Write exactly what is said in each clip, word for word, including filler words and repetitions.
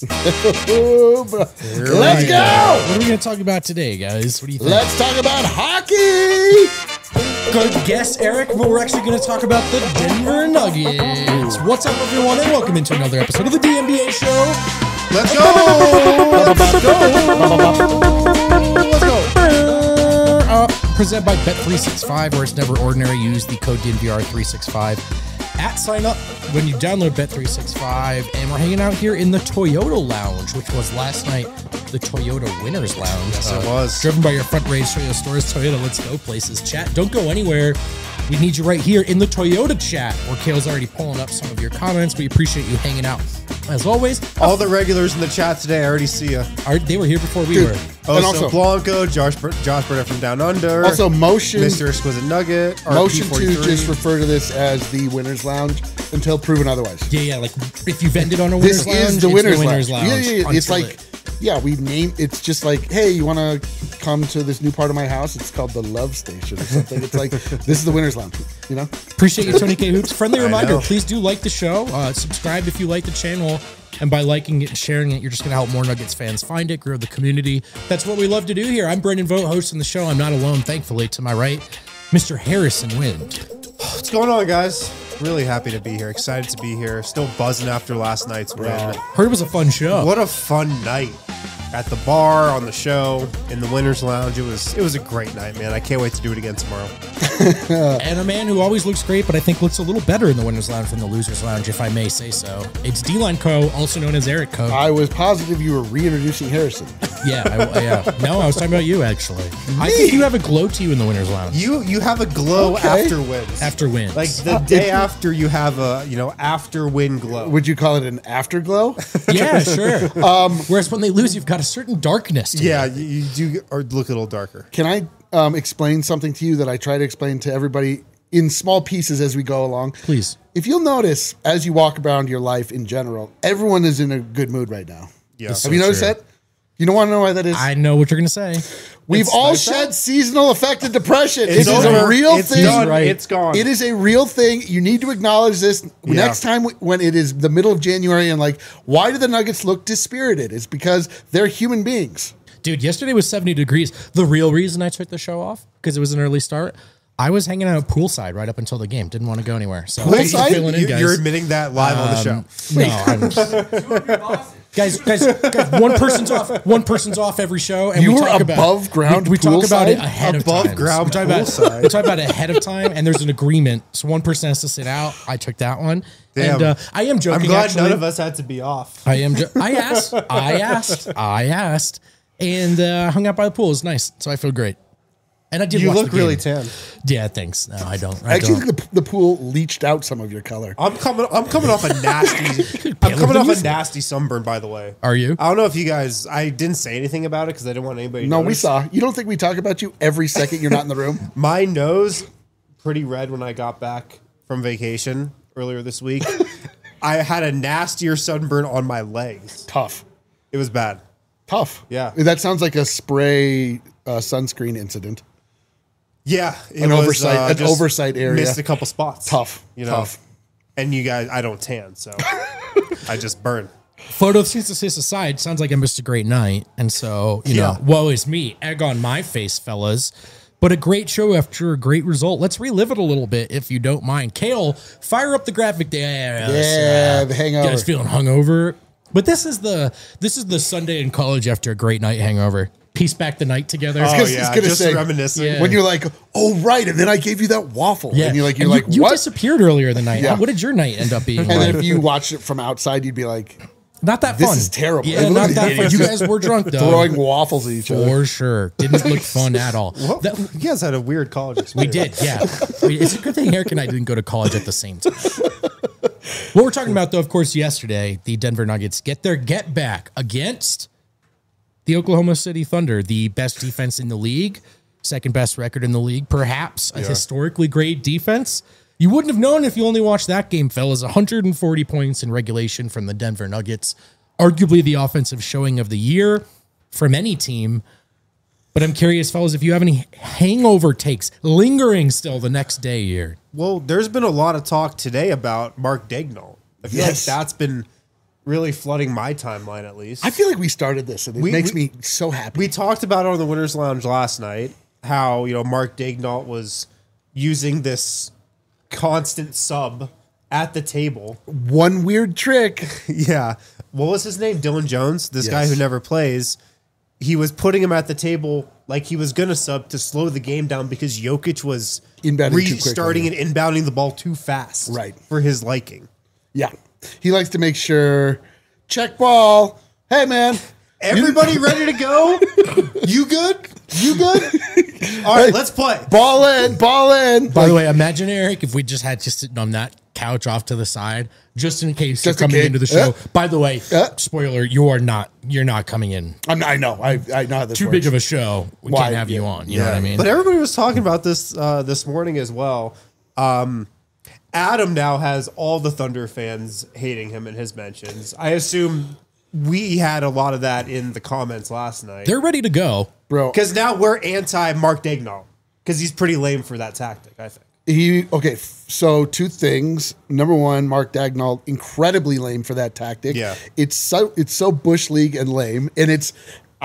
Let's go. What are we going to talk about today, guys? What do you think? Let's talk about hockey. Good guess, Eric, but we're actually going to talk about the Denver Nuggets. What's up, everyone, and welcome into another episode of the D N B A Show. Let's go. Let's go. Let's go. Uh, presented by Bet three sixty-five, where it's never ordinary. Use the code D N V R three sixty-five at sign up when you download Bet three sixty-five. And we're hanging out here in the Toyota Lounge, which was last night the Toyota Winners Lounge. Yes, uh, it was. Driven by your front range Toyota stores. Toyota, let's go places. Chat, don't go anywhere. We need you right here in the Toyota chat, where Kale's already pulling up some of your comments. We appreciate you hanging out. As always, all the regulars in the chat today, I already see you. Are, they were here before we Dude. were. Oh, And so also- Blanco, Josh, Josh Burnett from Down Under. Also, motion. Mister Exquisite Nugget. Motion R P to forty-three. just refer to this as the Winners Lounge until proven otherwise. Yeah, yeah, like if you've ended on a Winners This Lounge, is the it's Winners, the Winners Lounge. Lounge. Yeah, yeah, yeah. It's until like, it- yeah, we name. It's just like, hey, you want to come to this new part of my house? It's called the Love Station or something. It's like this is the Winners Lounge. You know. Appreciate you, Tony K. Hoops. Friendly I reminder, know. please do like the show. Uh, subscribe if you like the channel. And by liking it and sharing it, you're just going to help more Nuggets fans find it, grow the community. That's what we love to do here. I'm Brendan Vogt, hosting the show. I'm not alone, thankfully. To my right, Mister Harrison Wind. What's going on, guys? Really happy to be here. Excited to be here. Still buzzing after last night's win. Heard it was a fun show. What a fun night. At the bar, on the show, in the Winners Lounge. It was it was a great night, man. I can't wait to do it again tomorrow. And a man who always looks great, but I think looks a little better in the Winners Lounge than the Losers Lounge, if I may say so. It's D-Line Co., also known as Eric Co. I was positive you were reintroducing Harrison. Yeah, I, I, yeah. No, I was talking about you, actually. I think you have a glow to you in the Winners Lounge. You you have a glow Okay. after wins. After wins. Like the day after you have a, you know, after win glow. Would you call it an afterglow? Yeah, sure. Um, Whereas when they lose, you've got a certain darkness to Yeah, it. you, you do or look a little darker. Can I um, explain something to you that I try to explain to everybody in small pieces as we go along? Please. If you'll notice, as you walk around your life in general, everyone is in a good mood right now. Yeah. That's Have you so noticed true. that? You don't want to know why that is? I know what you're going to say. We've It's all like shed that. seasonal affected depression. It's It is a over. real It's thing. done. Right. It's gone. It is a real thing. You need to acknowledge this Yeah. next time when it is the middle of January and like, why do the Nuggets look dispirited? It's because they're human beings. Dude, yesterday was seventy degrees. The real reason I took the show off, because it was an early start, I was hanging out poolside right up until the game. Didn't want to go anywhere. So thanks for Poolside? filling in, You, guys. you're admitting that live on the show. Um, No, I'm guys, guys, guys, one person's off. One person's off every show, and You we were talk about above ground We, we talk about it poolside? ahead Above of time. ground we talk about poolside. we talk about it ahead of time, and there's an agreement. So one person has to sit out. I took that one, Damn. and uh, I am joking. I'm glad actually. none of us had to be off. I am. Jo- I asked. I asked. I asked, and uh, hung out by the pool. It was nice, so I feel great. And I did. You watch look the really game. tan. Yeah, thanks. No, I don't. I I actually don't. think the, the pool leached out some of your color. I'm coming. I'm coming off a nasty. I'm coming off a nasty sunburn. By the way, Are you? I don't know if you guys. I didn't say anything about it because I didn't want anybody. to No, we notice. saw. You don't think we talk about you every second you're not in the room? My nose pretty red when I got back from vacation earlier this week. I had a nastier sunburn on my legs. Tough. It was bad. Tough. Yeah. That sounds like a spray uh, sunscreen incident. Yeah, it An was, oversight- uh, an just oversight area. Missed a couple spots. Tough. you know. Tough. And you guys, I don't tan, so I just burn. Photosynthesis aside, sounds like I missed a great night, and so you Yeah. know, woe is me. Egg on my face, fellas. But a great show after a great result. Let's relive it a little bit, if you don't mind. Kale, fire up the graphic there. Yeah, the hangover. You guys feeling hungover? But this is the this is the Sunday in college after a great night hangover. Piece back the night together. Oh I was yeah, gonna just say, reminiscing. Yeah. When you're like, oh right, and then I gave you that waffle, Yeah, and you're like, you're And like, you, you what? disappeared earlier the night. Yeah. What did your night end up being? And like? then if you watched it from outside, you'd be like, Not that This fun. is terrible. Yeah, Look not at that the fun. idiots You just guys were drunk though. throwing waffles at each other. For sure. Didn't look fun at all. Well, That- you guys had a weird college we experience. did, yeah. We- It's a good thing Eric and I didn't go to college at the same time. What we're talking about, though, of course, yesterday, the Denver Nuggets get their get back against the Oklahoma City Thunder, the best defense in the league, second best record in the league, perhaps a historically great defense. You wouldn't have known if you only watched that game, fellas. one hundred forty points in regulation from the Denver Nuggets. Arguably the offensive showing of the year from any team. But I'm curious, fellas, if you have any hangover takes lingering still the next day here. Well, there's been a lot of talk today about Mark Daigneault. I feel Yes. like that's been really flooding my timeline at least. I feel like we started this, and it We- makes we- me so happy. We talked about it on the Winners Lounge last night, how, you know, Mark Daignault was using this constant sub at the table. One weird trick. Yeah. What was his name? Dylan Jones, this guy Yes. who never plays. He was putting him at the table like he was going to sub to slow the game down because Jokic was Inbounding too restarting quickly. and inbounding the ball too fast. Right. For his liking. Yeah. He likes to make sure, check ball. Hey, man. Everybody ready to go? You good? You good? All right, let's play. Ball in, ball in. By the way, imagine, Eric, if we just had just sitting on that couch off to the side, just in case Just you're in coming case. into the show. Yeah. By the way, Yeah. spoiler, you are not, you're not coming in. I'm, I know. I, I know how this Too works. big of a show. We Why? can't have you Yeah. on. You know what I mean? But everybody was talking about this uh, this morning as well. Um, Adam now has all the Thunder fans hating him in his mentions. I assume we had a lot of that in the comments last night. They're ready to go. Bro, Because now we're anti Mark Daignault because he's pretty lame for that tactic, I think. he, okay, f- so two things. Number one, Mark Daignault, incredibly lame for that tactic. Yeah. It's so, it's so Bush League and lame. And it's,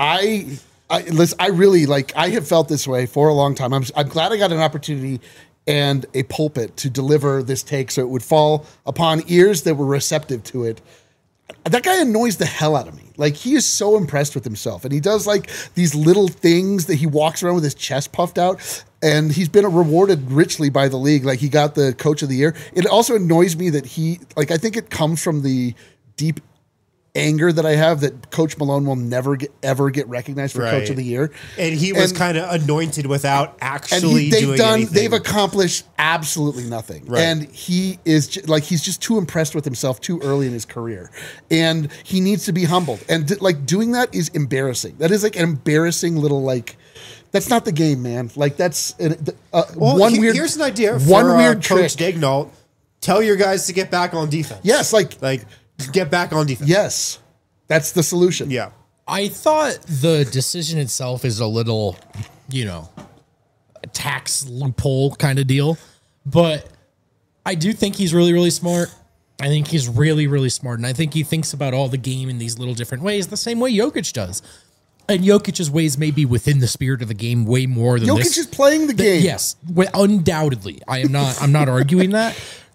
I, I, listen, I really like, I have felt this way for a long time. I'm, I'm glad I got an opportunity and a pulpit to deliver this take so it would fall upon ears that were receptive to it. That guy annoys the hell out of me. Like, he is so impressed with himself, and he does like these little things that he walks around with his chest puffed out, and he's been rewarded richly by the league. Like, he got the coach of the year. It also annoys me that he, like, I think it comes from the deep anger that I have that Coach Malone will never get, ever get recognized for Right. coach of the year. And he was And- kind of anointed without and actually he, they've doing done anything. they've accomplished absolutely nothing. Right. And he is ju- like he's just too impressed with himself too early in his career, and he needs to be humbled, and d- like doing that is embarrassing. That is like an embarrassing little like that's not the game, man. Like that's uh, Well, one he- weird here's an idea one for weird uh, trick. Coach Daignault. Tell your guys to get back on defense. Yes, like Like, get back on defense. yes. That's the solution. Yeah. I thought the decision itself is a little, you know, a tax loophole kind of deal. But I do think he's really, really smart. I think he's really, really smart. And I think he thinks about all the game in these little different ways, the same way Jokic does. And Jokic's ways may be within the spirit of the game way more than Jokic this. is playing the game. Yes, well, undoubtedly. I am not. I'm not arguing that.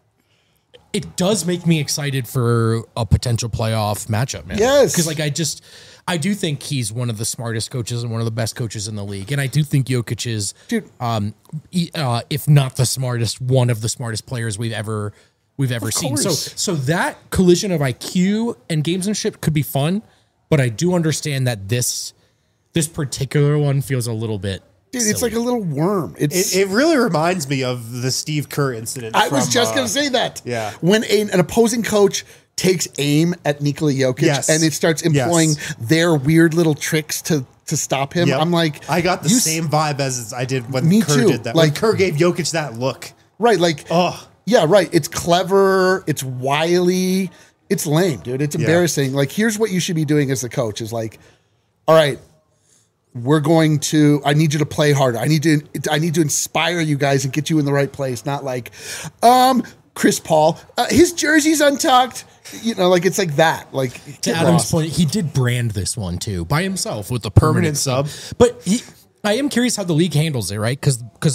It does make me excited for a potential playoff matchup, man. Yes. because like I just, I do think he's one of the smartest coaches and one of the best coaches in the league, and I do think Jokic is, Dude. um, e- uh, if not the smartest, one of the smartest players we've ever we've ever seen. So, course. so that collision of I Q and gamesmanship could be fun, but I do understand that this this particular one feels a little bit. Dude, it's silly. like a little worm. It's It, it really reminds me of the Steve Kerr incident. I was from, just uh, going to say that. yeah. When a, an opposing coach takes aim at Nikola Jokic Yes. and it starts employing Yes. their weird little tricks to to stop him, Yep. I'm like, I got the you s- same vibe as I did when Me Kerr too. did that. When Like- Kerr gave Jokic that look. right, like, Oh, yeah, right. It's clever. It's wily. It's lame, dude. It's embarrassing. Like, here's what you should be doing as the coach: is like, all right, we're going to. I need you to play harder. I need to. I need to inspire you guys and get you in the right place. Not like, um, Chris Paul, uh, his jersey's untucked. You know, like it's like that. Like To get Adam's lost. point, he did brand this one too by himself with the permanent, Permanent sub. But he, I am curious how the league handles it, right? Because because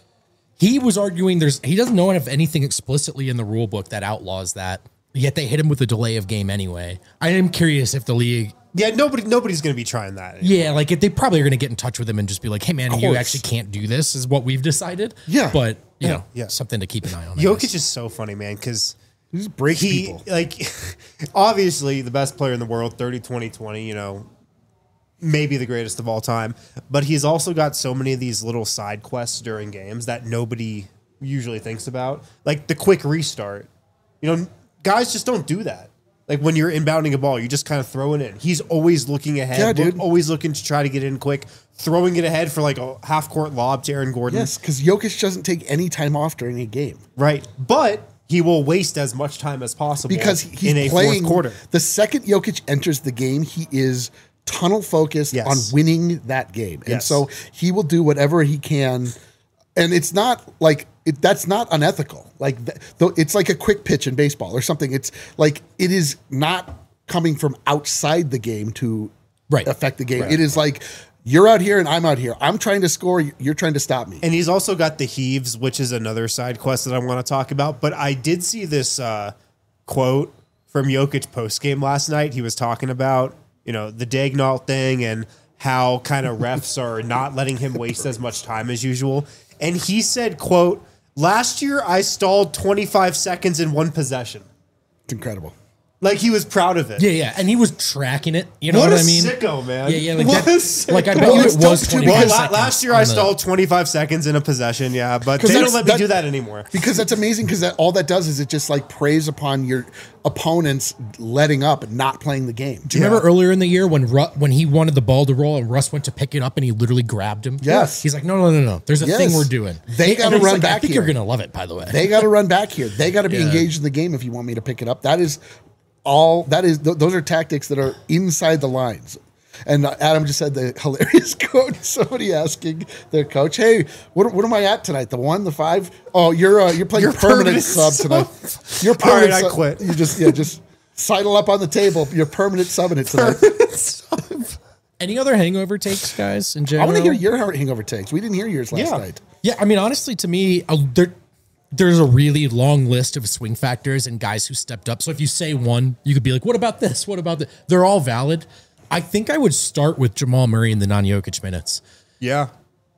he was arguing there's he doesn't know of anything explicitly in the rule book that outlaws that. Yet they hit him with a delay of game anyway. I am curious if the league, yeah. Nobody, nobody's going to be trying that. yeah, like if they probably are going to get in touch with him and just be like, "Hey, man, you course. actually can't do this." Is what we've decided. Yeah. but you Yeah, know, yeah. something to keep an eye on. I guess. Jokic is so funny, man, because He just breaks he, people. like, obviously the best player in the world, thirty, twenty, twenty, you know, maybe the greatest of all time. But he's also got so many of these little side quests during games that nobody usually thinks about. Like the quick restart. You know, guys just don't do that. Like when you're inbounding a ball, you just kind of throw it in. He's always looking ahead, Yeah, look- dude. always looking to try to get in quick, throwing it ahead for like a half court lob to Aaron Gordon. Yes, because Jokic doesn't take any time off during a game. Right. But he will waste as much time as possible Because he's in a playing fourth quarter. The second Jokic enters the game, he is tunnel focused Yes. on winning that game, and Yes. so he will do whatever he can. And it's not like it, that's not unethical. Like th- though, it's like a quick pitch in baseball or something. It's like it is not coming from outside the game to Right. affect the game. Right. It is like, you're out here and I'm out here. I'm trying to score. You're trying to stop me. And he's also got the heaves, which is another side quest that I want to talk about. But I did see this uh, quote from Jokic post game last night. He was talking about, you know, the Dagnall thing and how kind of refs are not letting him waste as much time as usual. And he said, quote, last year I stalled twenty-five seconds in one possession. It's incredible. Like he was proud of it. Yeah, yeah, and he was tracking it. You know what what, a I mean? sicko, man. Yeah, yeah. Like, What that, a sicko. like I bet Well, you it's it was tough too, twenty-five because Well, la- seconds last year on I the- stalled twenty-five seconds in a possession, yeah, but they that's- don't let me that- do that anymore. Because that's amazing. Because that all that does is it just like preys upon your opponents letting up and not playing the game. Do you remember earlier in the year when Ru- when he wanted the ball to roll and Russ went to pick it up and he literally grabbed him? Yes. He's like, no, no, no, no. There's a Yes. thing we're doing. They And gotta he's run like, I back think here. you're gonna love it, by the way. They got to run back here. They got to be Yeah. engaged in the game if you want me to pick it up. That is all. That is th- those are tactics that are inside the lines. And uh, Adam just said the hilarious quote. Somebody asking their coach, "Hey, what, what am I at tonight? The one, the five? Oh, you're uh, you're playing You're permanent, permanent sub sub. tonight. You're All permanent. right, I sub. quit. You just yeah, just sidle up on the table. You're permanent subbing it tonight. Any other hangover takes, guys? In I general, want to hear your hangover takes. We didn't hear yours last Yeah. night. Yeah, I mean, honestly, to me, uh, there, there's a really long list of swing factors and guys who stepped up. So if you say one, you could be like, what about this? What about that? They're all valid. I think I would start with Jamal Murray in the non-Jokic minutes. Yeah.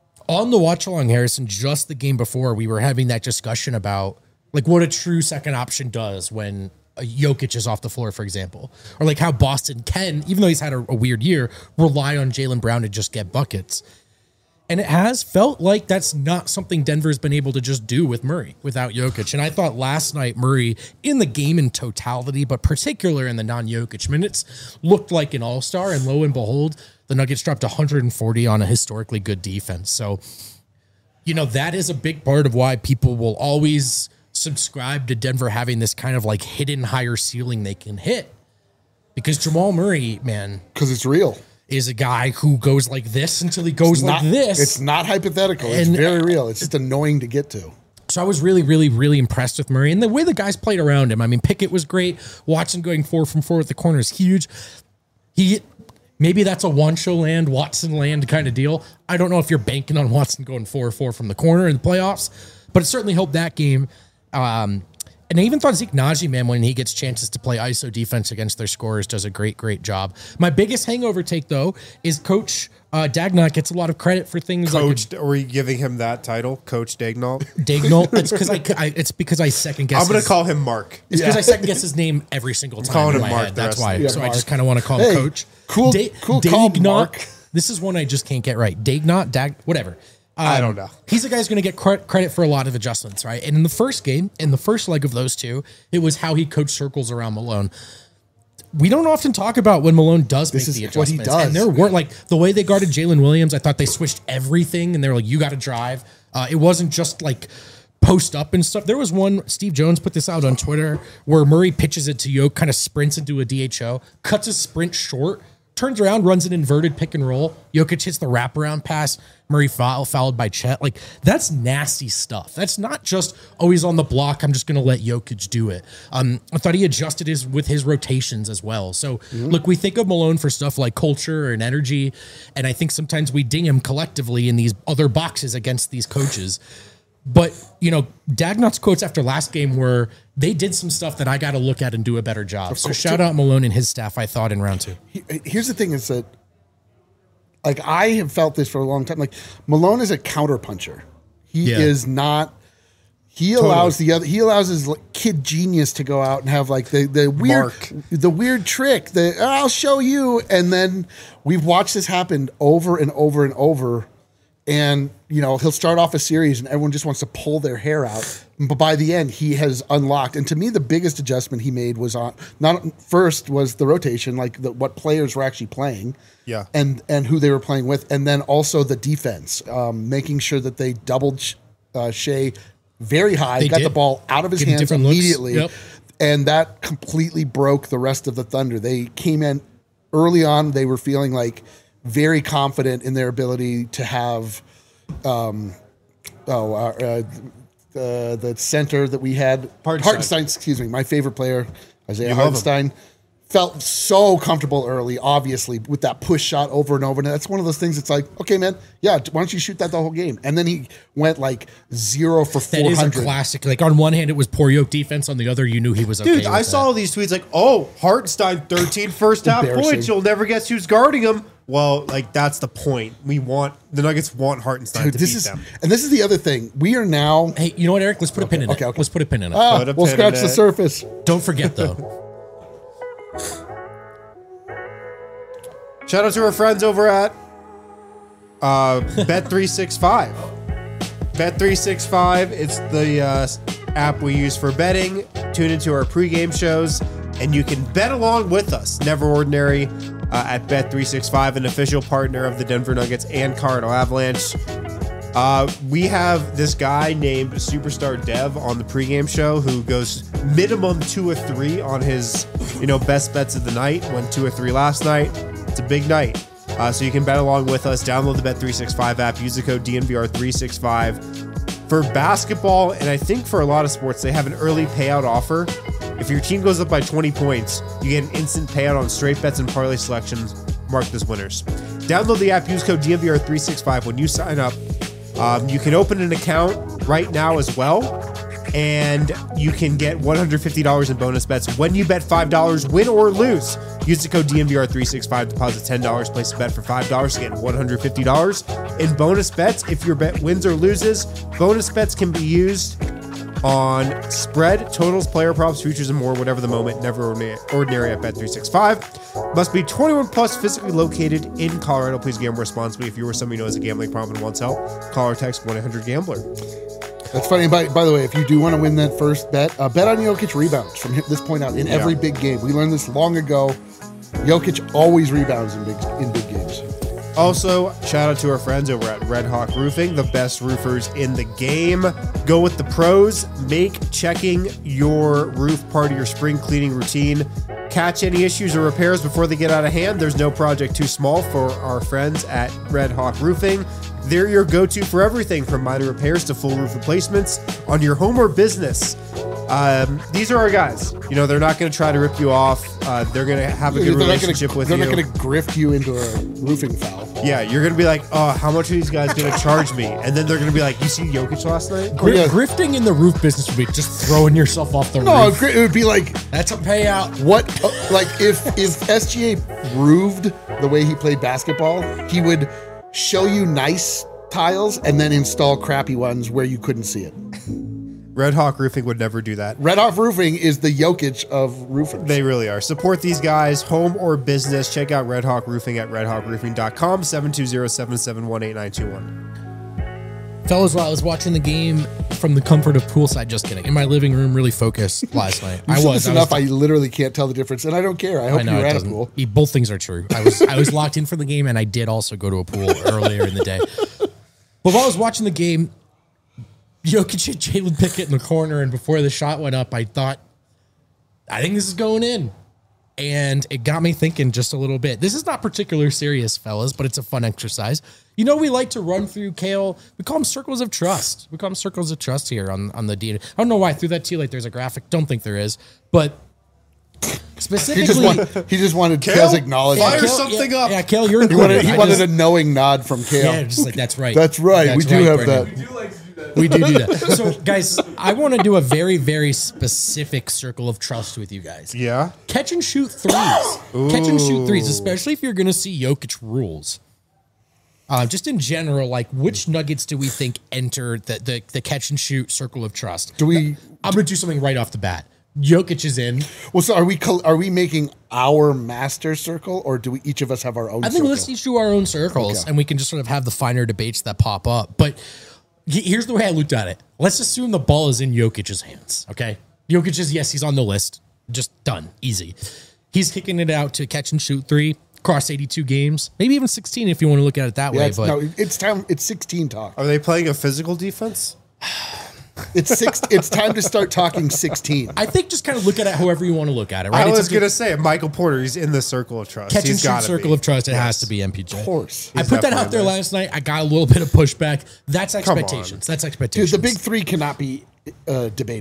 On the watch along, Harrison, just the game before, we were having that discussion about like what a true second option does when a Jokic is off the floor, for example, or like how Boston can, even though he's had a, a weird year, rely on Jaylen Brown to just get buckets. And it has felt like that's not something Denver's been able to just do with Murray without Jokic. And I thought last night Murray in the game in totality, but particular in the non-Jokic minutes, looked like an all-star. And lo and behold, the Nuggets dropped one hundred forty on a historically good defense. So, you know, that is a big part of why people will always subscribe to Denver having this kind of like hidden higher ceiling they can hit. Because Jamal Murray, man, Because it's real. is a guy who goes like this until he goes like Not, this. It's not hypothetical. It's And- very real. It's just annoying to get to. So I was really, really, really impressed with Murray and the way the guys played around him. I mean, Pickett was great. Watson going four from four at the corner is huge. He maybe that's a Wancho land, Watson land kind of deal. I don't know if you're banking on Watson going four four from the corner in the playoffs, but it certainly helped that game. Um, and I even thought Zeke Naji, man, when he gets chances to play I S O defense against their scorers, does a great, great job. My biggest hangover take, though, is Coach uh, Dagnall gets a lot of credit for things like Coach, are we giving him that title? Coach Dagnall? Dagnall. It's because I, I, it's because I second guess. I'm going his- to call him Mark. It's because I second guess his name every single time calling in him my Mark head. the That's rest why. of the- So Yeah, I Mark. just kind of want to call Hey, him Coach. cool- cool call, Dagnall- Mark. This is one I just can't get right. Dagnall, Dag, whatever. Um, I don't know. He's a guy who's going to get cre- credit for a lot of adjustments, right? And in the first game, in the first leg of those two, it was how he coached circles around Malone. We don't often talk about when Malone does This make is the what he adjustments. does. And there weren't like the way they guarded Jalen Williams. I thought they switched everything, and they were like, "You got to drive." Uh, it wasn't just like post up and stuff. There was one, Steve Jones put this out on Twitter, where Murray pitches it to Yoke, kind of sprints into a D H O, cuts his sprint short, turns around, runs an inverted pick and roll. Jokic hits the wraparound pass. Murray foul, fouled by Chet. Like, that's nasty stuff. That's not just, oh, he's on the block, I'm just going to let Jokic do it. Um, I thought he adjusted his with his rotations as well. So, look, we think of Malone for stuff like culture and energy, and I think sometimes we ding him collectively in these other boxes against these coaches. But, you know, Dagnall's quotes after last game were, they did some stuff that I got to look at and do a better job. So shout out Malone and his staff, I thought, in round two. He- Here's the thing is that, like, I have felt this for a long time. Like, Malone is a counterpuncher. He Yeah. is not. He allows the other. He allows his like, kid genius to go out and have like the the weird Mark. the weird trick. The I'll show you, and then we've watched this happen over and over and over. And, you know, he'll start off a series and everyone just wants to pull their hair out. But by the end, he has unlocked. And to me, the biggest adjustment he made was on, not first was the rotation, like the, what players were actually playing. Yeah. And, and who they were playing with. And then also the defense, um, making sure that they doubled uh, Shea very high, They got did. the ball out of his Give him hands different looks. immediately. Yep. And that completely broke the rest of the Thunder. They came in early on, they were feeling like very confident in their ability to have, um, oh, uh, uh, the the center that we had, Hartenstein. Hartenstein, excuse me, my favorite player, Isaiah You love him. Hartenstein, felt so comfortable early, obviously, with that push shot over and over. And that's one of those things. It's like, okay, man, yeah, why don't you shoot that the whole game? And then he went like zero for That four is hundred. a classic. Like on one hand, it was poor Yoke defense. On the other, you knew he was okay. Dude, with I that. saw all these tweets like, oh, Hartenstein, thirteen first half Embarrassing. points. You'll never guess who's guarding him. Well, like, that's the point. We want, the Nuggets want Hartenstein Dude, to this beat is, them. and this is the other thing. We are now. Hey, you know what, Eric? Let's put a pin in okay, it. okay. Let's put a pin in it. Ah, Put a we'll pin scratch in the it. surface. Don't forget though. Shout out to our friends over at uh, Bet three sixty-five. Bet three sixty-five, it's the uh, app we use for betting. Tune into our pregame shows, and you can bet along with us. Never Ordinary uh, at Bet three sixty-five, an official partner of the Denver Nuggets and Colorado Avalanche. Uh, we have this guy named Superstar Dev on the pregame show who goes minimum two or three on his, you know, best bets of the night. Went two or three last night. It's a big night. Uh, so you can bet along with us. Download the Bet three sixty-five app. Use the code D N V R three sixty-five. For basketball, and I think for a lot of sports, they have an early payout offer. If your team goes up by twenty points, you get an instant payout on straight bets and parlay selections marked as winners. Download the app. Use code D N V R three sixty-five when you sign up. Um, you can open an account right now as well, and you can get one hundred fifty dollars in bonus bets when you bet five dollars, win or lose. Use the code D N V R three sixty-five, deposit ten dollars, place a bet for five dollars to get one hundred fifty dollars in bonus bets if your bet wins or loses. Bonus bets can be used on spread, totals, player props, futures, and more, whatever the moment. Never ordinary, ordinary at Bet three sixty-five. Must be twenty-one plus, physically located in Colorado. Please gamble responsibly. If you or somebody who knows a gambling problem and wants help, call or text one eight hundred gambler. That's funny. By, by the way, if you do want to win that first bet, uh, bet on Jokic rebounds from this point out in every Yeah. big game. We learned this long ago. Jokic always rebounds in big in big games. Also, shout out to our friends over at Red Hawk Roofing, the best roofers in the game. Go with the pros. Make checking your roof part of your spring cleaning routine. Catch any issues or repairs before they get out of hand. There's no project too small for our friends at Red Hawk Roofing. They're your go-to for everything from minor repairs to full roof replacements on your home or business. Um, these are our guys. You know, they're not going to try to rip you off. Uh, they're going to have a good They're not gonna- relationship with they're you. not going to grift you into a roofing foul. Yeah, you're going to be like, oh, how much are these guys going to charge me? And then they're going to be like, you see Jokic last night? Gri- yeah. Grifting in the roof business would be just throwing yourself off the No, roof. it would be like That's a payout. what, uh, like if if S G A roofed the way he played basketball, he would show you nice tiles and then install crappy ones where you couldn't see it. Red Hawk Roofing would never do that. Red Hawk Roofing is the Jokic of roofers. They really are. Support these guys, home or business. Check out Red Hawk Roofing at red hawk roofing dot com, seven two zero, seven seven one, eight nine two one. Fellas, while I was watching the game from the comfort of poolside, just kidding, in my living room, really focused last night. You I said was. this I enough. was I literally can't tell the difference, and I don't care. I hope I know you're it at a doesn't. pool. e- Both things are true. I was I was locked in for the game, and I did also go to a pool earlier in the day. But while I was watching the game, Jokic hit Jalen Pickett in the corner, and before the shot went up, I thought, I think this is going in. And it got me thinking just a little bit. This is not particularly serious, fellas, but it's a fun exercise. You know, we like to run through Kale. We call them circles of trust. We call them circles of trust here on, on the D N A. I don't know why I threw that to you like there's a graphic. Don't think there is. But He just, specifically, want, he just wanted Kale's acknowledgement. fire Kale- something yeah, up. Yeah, Kale, you're He wanted, included. he I wanted just- a knowing nod from Kale. Yeah, just like that's right. That's right. we That's do right, have Brendan. that. do like to do that. We do do that. So, guys, I want to do a very, very specific circle of trust with you guys. Yeah? Catch and shoot threes. Catch and shoot threes, especially if you're going to see Jokic rules. Uh, just in general, like which Nuggets do we think enter the, the, the catch and shoot circle of trust? Do we? I'm going to do something right off the bat. Jokic is in. Well, so are we? col- Are we making our master circle, or do we each of us have our own? I think circle? let's each do our own circles, Okay. and we can just sort of have the finer debates that pop up. But he- here's the way I looked at it. Let's assume the ball is in Jokic's hands. Okay, Jokic is yes, he's on the list. Just done, easy. He's kicking it out to catch and shoot three across eighty-two games, maybe even sixteen if you want to look at it that Yeah, way. it's, But no, it's time. It's sixteen talk. Are they playing a physical defense? It's six. It's time to start talking sixteen. I think just kind of look at it however you want to look at it. Right? I It's was a going to say, Michael Porter, he's in the circle of trust. catch and He's shoot got circle be. of trust. It Yes. has to be M P J. Of course, I He's put that definitely out there there. last night. I got a little bit of pushback. That's on. expectations. That's dude. expectations. The big three cannot be uh, debated.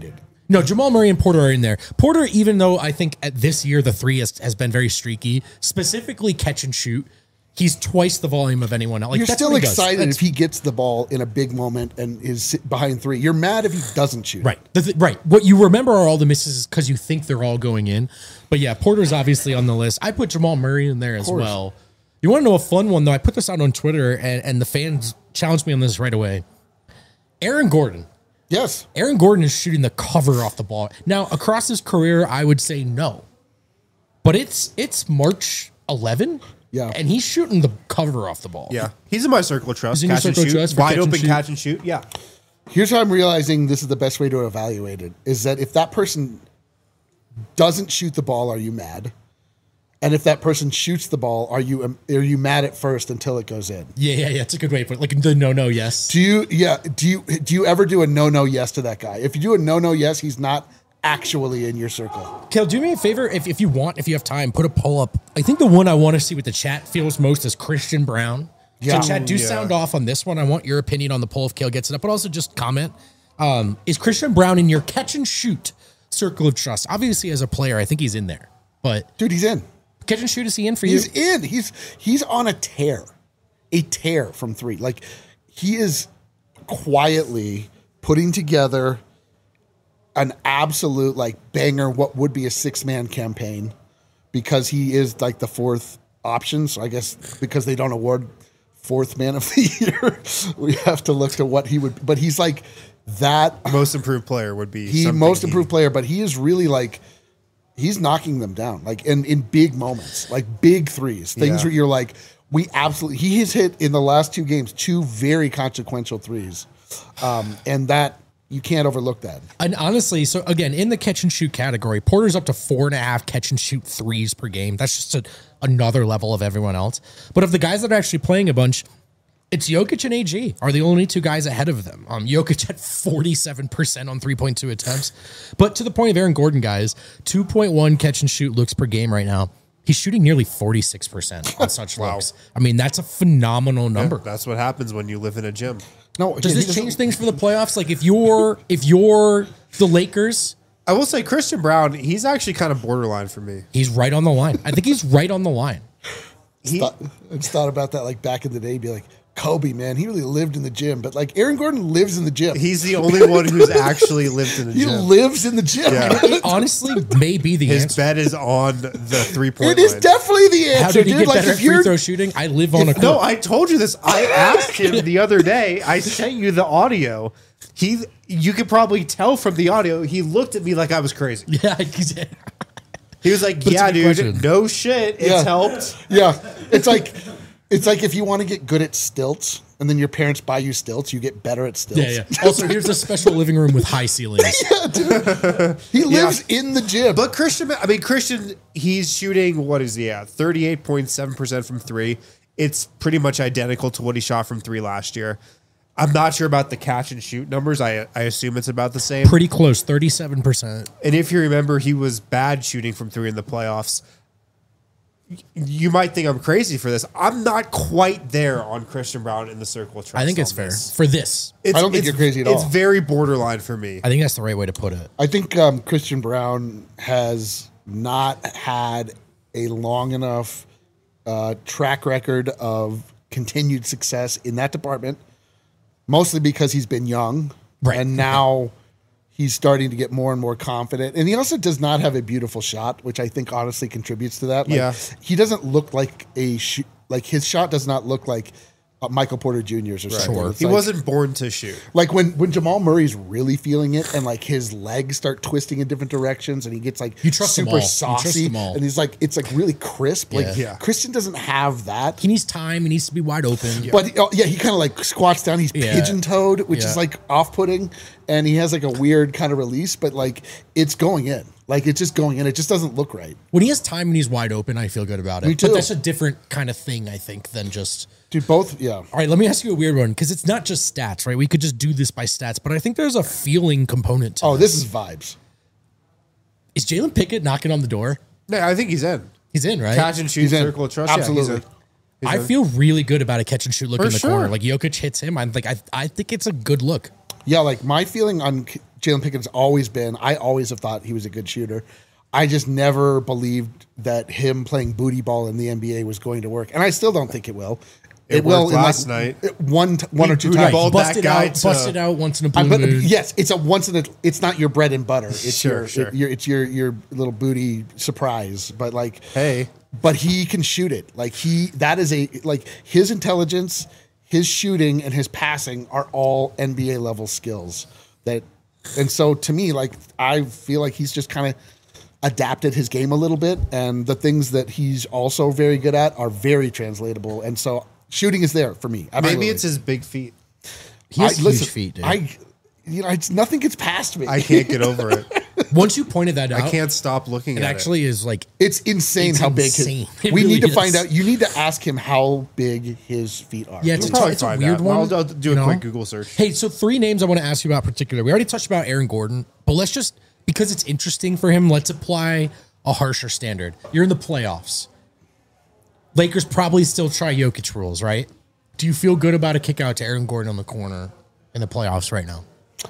No, Jamal Murray and Porter are in there. Porter, even though I think at this year the three has, has been very streaky, specifically catch and shoot, he's twice the volume of anyone else. Like, You're that's still what he does. excited That's- if he gets the ball in a big moment and is sit behind three. You're mad if he doesn't shoot. Right. The th- right. What you remember are all the misses because you think they're all going in. But yeah, Porter's obviously on the list. I put Jamal Murray in there as course. well. You want to know a fun one, though? I put this out on Twitter, and, and the fans challenged me on this right away. Aaron Gordon. Yes. Aaron Gordon is shooting the cover off the ball. Now, across his career, I would say no. But it's it's March eleventh. Yeah. And he's shooting the cover off the ball. Yeah, he's in my circle of trust. He's in your Catch and circle of shoot, trust for wide catch and open shoot. catch and shoot. Yeah, Here's how I'm realizing this is the best way to evaluate it is that if that person doesn't shoot the ball, are you mad? And if that person shoots the ball, are you um, are you mad at first until it goes in? Yeah, yeah, yeah. It's a good way to put it. Like the no, no, yes. Do you yeah, do you do you ever do a no no yes to that guy? If you do a no no yes, he's not actually in your circle. Kel, do me a favor if, if you want, if you have time, put a poll up. I think the one I want to see what the chat feels most is Christian Brown. Yeah. So chat, do Yeah. sound off on this one. I want your opinion on the poll if Kale gets it up, but also just comment. Um, is Christian Brown in your catch and shoot circle of trust? Obviously, as a player, I think he's in there. But Dude, he's in. catch and shoot, is he in for you? He's in. He's he's on a tear. A tear from three. Like he is quietly putting together an absolute like banger, what would be a six-man campaign, because he is like the fourth option. So I guess because they don't award fourth man of the year, we have to look to what he would. But he's like that. most improved player would be He something most he- improved player, but he is really like he's knocking them down, like in in big moments, like big threes, things Yeah. where you're like, we absolutely. He has hit in the last two games two very consequential threes, um, and that. You can't overlook that. And honestly, so again, in the catch and shoot category, Porter's up to four and a half catch and shoot threes per game. That's just a, another level of everyone else. But of the guys that are actually playing a bunch, it's Jokic and A G are the only two guys ahead of them. Um, Jokic at forty-seven percent on three point two attempts. But to the point of Aaron Gordon, guys, two point one catch and shoot looks per game right now. He's shooting nearly forty-six percent on such Wow. looks. I mean, that's a phenomenal number. That's what happens when you live in a gym. No, Does he this doesn't- change things for the playoffs? Like if you're if you're the Lakers, I will say Christian Brown, he's actually kind of borderline for me. he's right on the line. I think he's right on the line. He, Thought, I just thought about that like back in the day, be like, Kobe, man, he really lived in the gym. But like Aaron Gordon lives in the gym. he's the only one who's actually lived in the he gym. lives in the gym. Yeah. It honestly may be the His answer. bet is on the three point It is line. definitely the answer, How did he dude. get Like better if at free you're throw shooting? I live on a court. No, I told you this. I asked him the other day. I sent you the audio. He, you could probably tell from the audio. He looked at me like I was crazy. yeah, he's- He was like, But it's "Yeah, a good dude, question. no shit, it's Yeah. helped." Yeah, it's like it's like if you want to get good at stilts, and then your parents buy you stilts, you get better at stilts. yeah, yeah. Also, here's a special living room with high ceilings. He lives in the gym. But Christian, I mean Christian, he's shooting what is he at? thirty-eight point seven percent from three. It's pretty much identical to what he shot from three last year. I'm not sure about the catch and shoot numbers. I I assume it's about the same. Pretty close, thirty-seven percent. And if you remember, he was bad shooting from three in the playoffs. Y- You might think I'm crazy for this. I'm not quite there on Christian Brown in the circle of trust. I think it's on fair this. for this. It's, I don't think it's- you're crazy at It's all. very borderline for me. I think that's the right way to put it. I think um, Christian Brown has not had a long enough uh, track record of continued success in that department, mostly because he's been young, Right. and now he's starting to get more and more confident. And he also does not have a beautiful shot, which I think honestly contributes to that. Like, Yeah. he doesn't look like a sh- like his shot does not look like uh, Michael Porter Junior's or something. Sure. It's He like- wasn't born to shoot. like when when Jamal Murray's really feeling it and like his legs start twisting in different directions and he gets like You trust them super all. You trust saucy them all. and he's like it's like really crisp. Like Yeah. Yeah. Christian doesn't have that. He needs time. He needs to be wide open. But he- oh, yeah, he kind of like squats down. He's Yeah. pigeon toed, which Yeah. is like off putting, and he has like a weird kind of release. But like it's going in, like it's just going in. It just doesn't look right, When he has time and he's wide open, I feel good about it. Me too. But that's a different kind of thing, I think, than just. dude. Both, yeah. All right, let me ask you a weird one because it's not just stats, right? We could just do this by stats, but I think there's a feeling component to Oh, this. this is vibes. Is Jalen Pickett knocking on the door? Yeah, I think he's in. He's in, right? Catch and shoot, He's in. circle of trust. Absolutely. Yeah, he's in. He's I in. feel really good about a catch and shoot look For in the sure. corner. Like Jokic hits him, I'm like, I, I think it's a good look. Yeah, like my feeling on K- Jalen Pickett's always been. I always have thought he was a good shooter. I just never believed that him playing booty ball in the N B A was going to work, and I still don't think it will. It, It, will worked in last like night. one t- one He or two booty times. balled Busted that guy out, to- busted out once in a blue I- but moon. yes, it's a once in a. It's not your bread and butter. It's Sure, your, sure. it- your it's your your little booty surprise. But like, Hey. but he can shoot it. Like he that is a like his intelligence, his shooting, and his passing are all N B A level skills. That and so to me, like I feel like he's just kind of adapted his game a little bit, and the things that he's also very good at are very translatable. And so shooting is there for me. Absolutely. Maybe it's his big feet. He has I- huge listen, feet, dude. I, you know, it's nothing gets past me. I can't get over it. Once you pointed that out, I can't stop looking it at actually is like It's insane It's how insane. big his. It We really need to is. find out. You need to ask him how big his feet are. yeah, it's, We'll a, probably it's a find weird out. one. I'll- I'll do a you know? quick Google search. Hey, so three names I want to ask you about particular. We already touched about Aaron Gordon, but let's just because it's interesting for him. Let's apply a harsher standard. You're in the playoffs. Lakers probably still try Jokic rules, right? Do you feel good about a kick out to Aaron Gordon on the corner in the playoffs right now?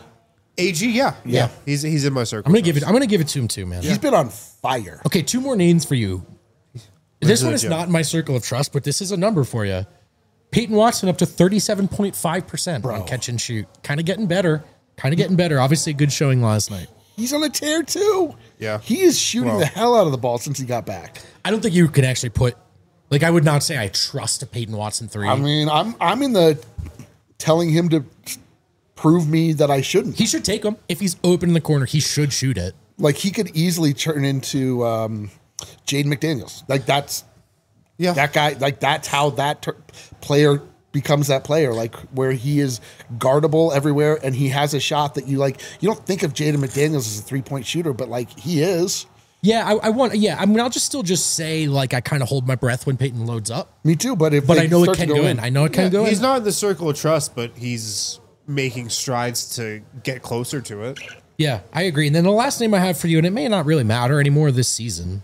A G, yeah, yeah, he's he's in my circle. I'm gonna give it. I'm gonna give it to him too, man. He's been on fire. Okay, two more names for you. This to one the is gym. not in my circle of trust, but this is a number for you. Peyton Watson up to thirty-seven point five percent on catch and shoot. Kind of getting better. Kind of getting better. Obviously, a good showing last night. He's on a tear too. Yeah. he is shooting Well- the hell out of the ball since he got back. I don't think you can actually put, like, I would not say I trust a Peyton Watson three. I mean, I'm I'm in the telling him to prove me that I shouldn't. he should take him. If he's open in the corner, he should shoot it. Like he could easily turn into um, Jaden McDaniels. Like that's Yeah, that guy. Like that's how that ter- player becomes that player. Like where he is guardable everywhere, and he has a shot that you like. You don't think of Jaden McDaniels as a three point shooter, but like he is. Yeah, I, I want. Yeah, I mean, I'll just still just say like I kind of hold my breath when Peyton loads up, Me too. But if but they I know it start can to go in. I know it can Yeah, go in. he's not in the circle of trust, but he's making strides to get closer to it. Yeah, I agree. And then the last name I have for you, and it may not really matter anymore this season,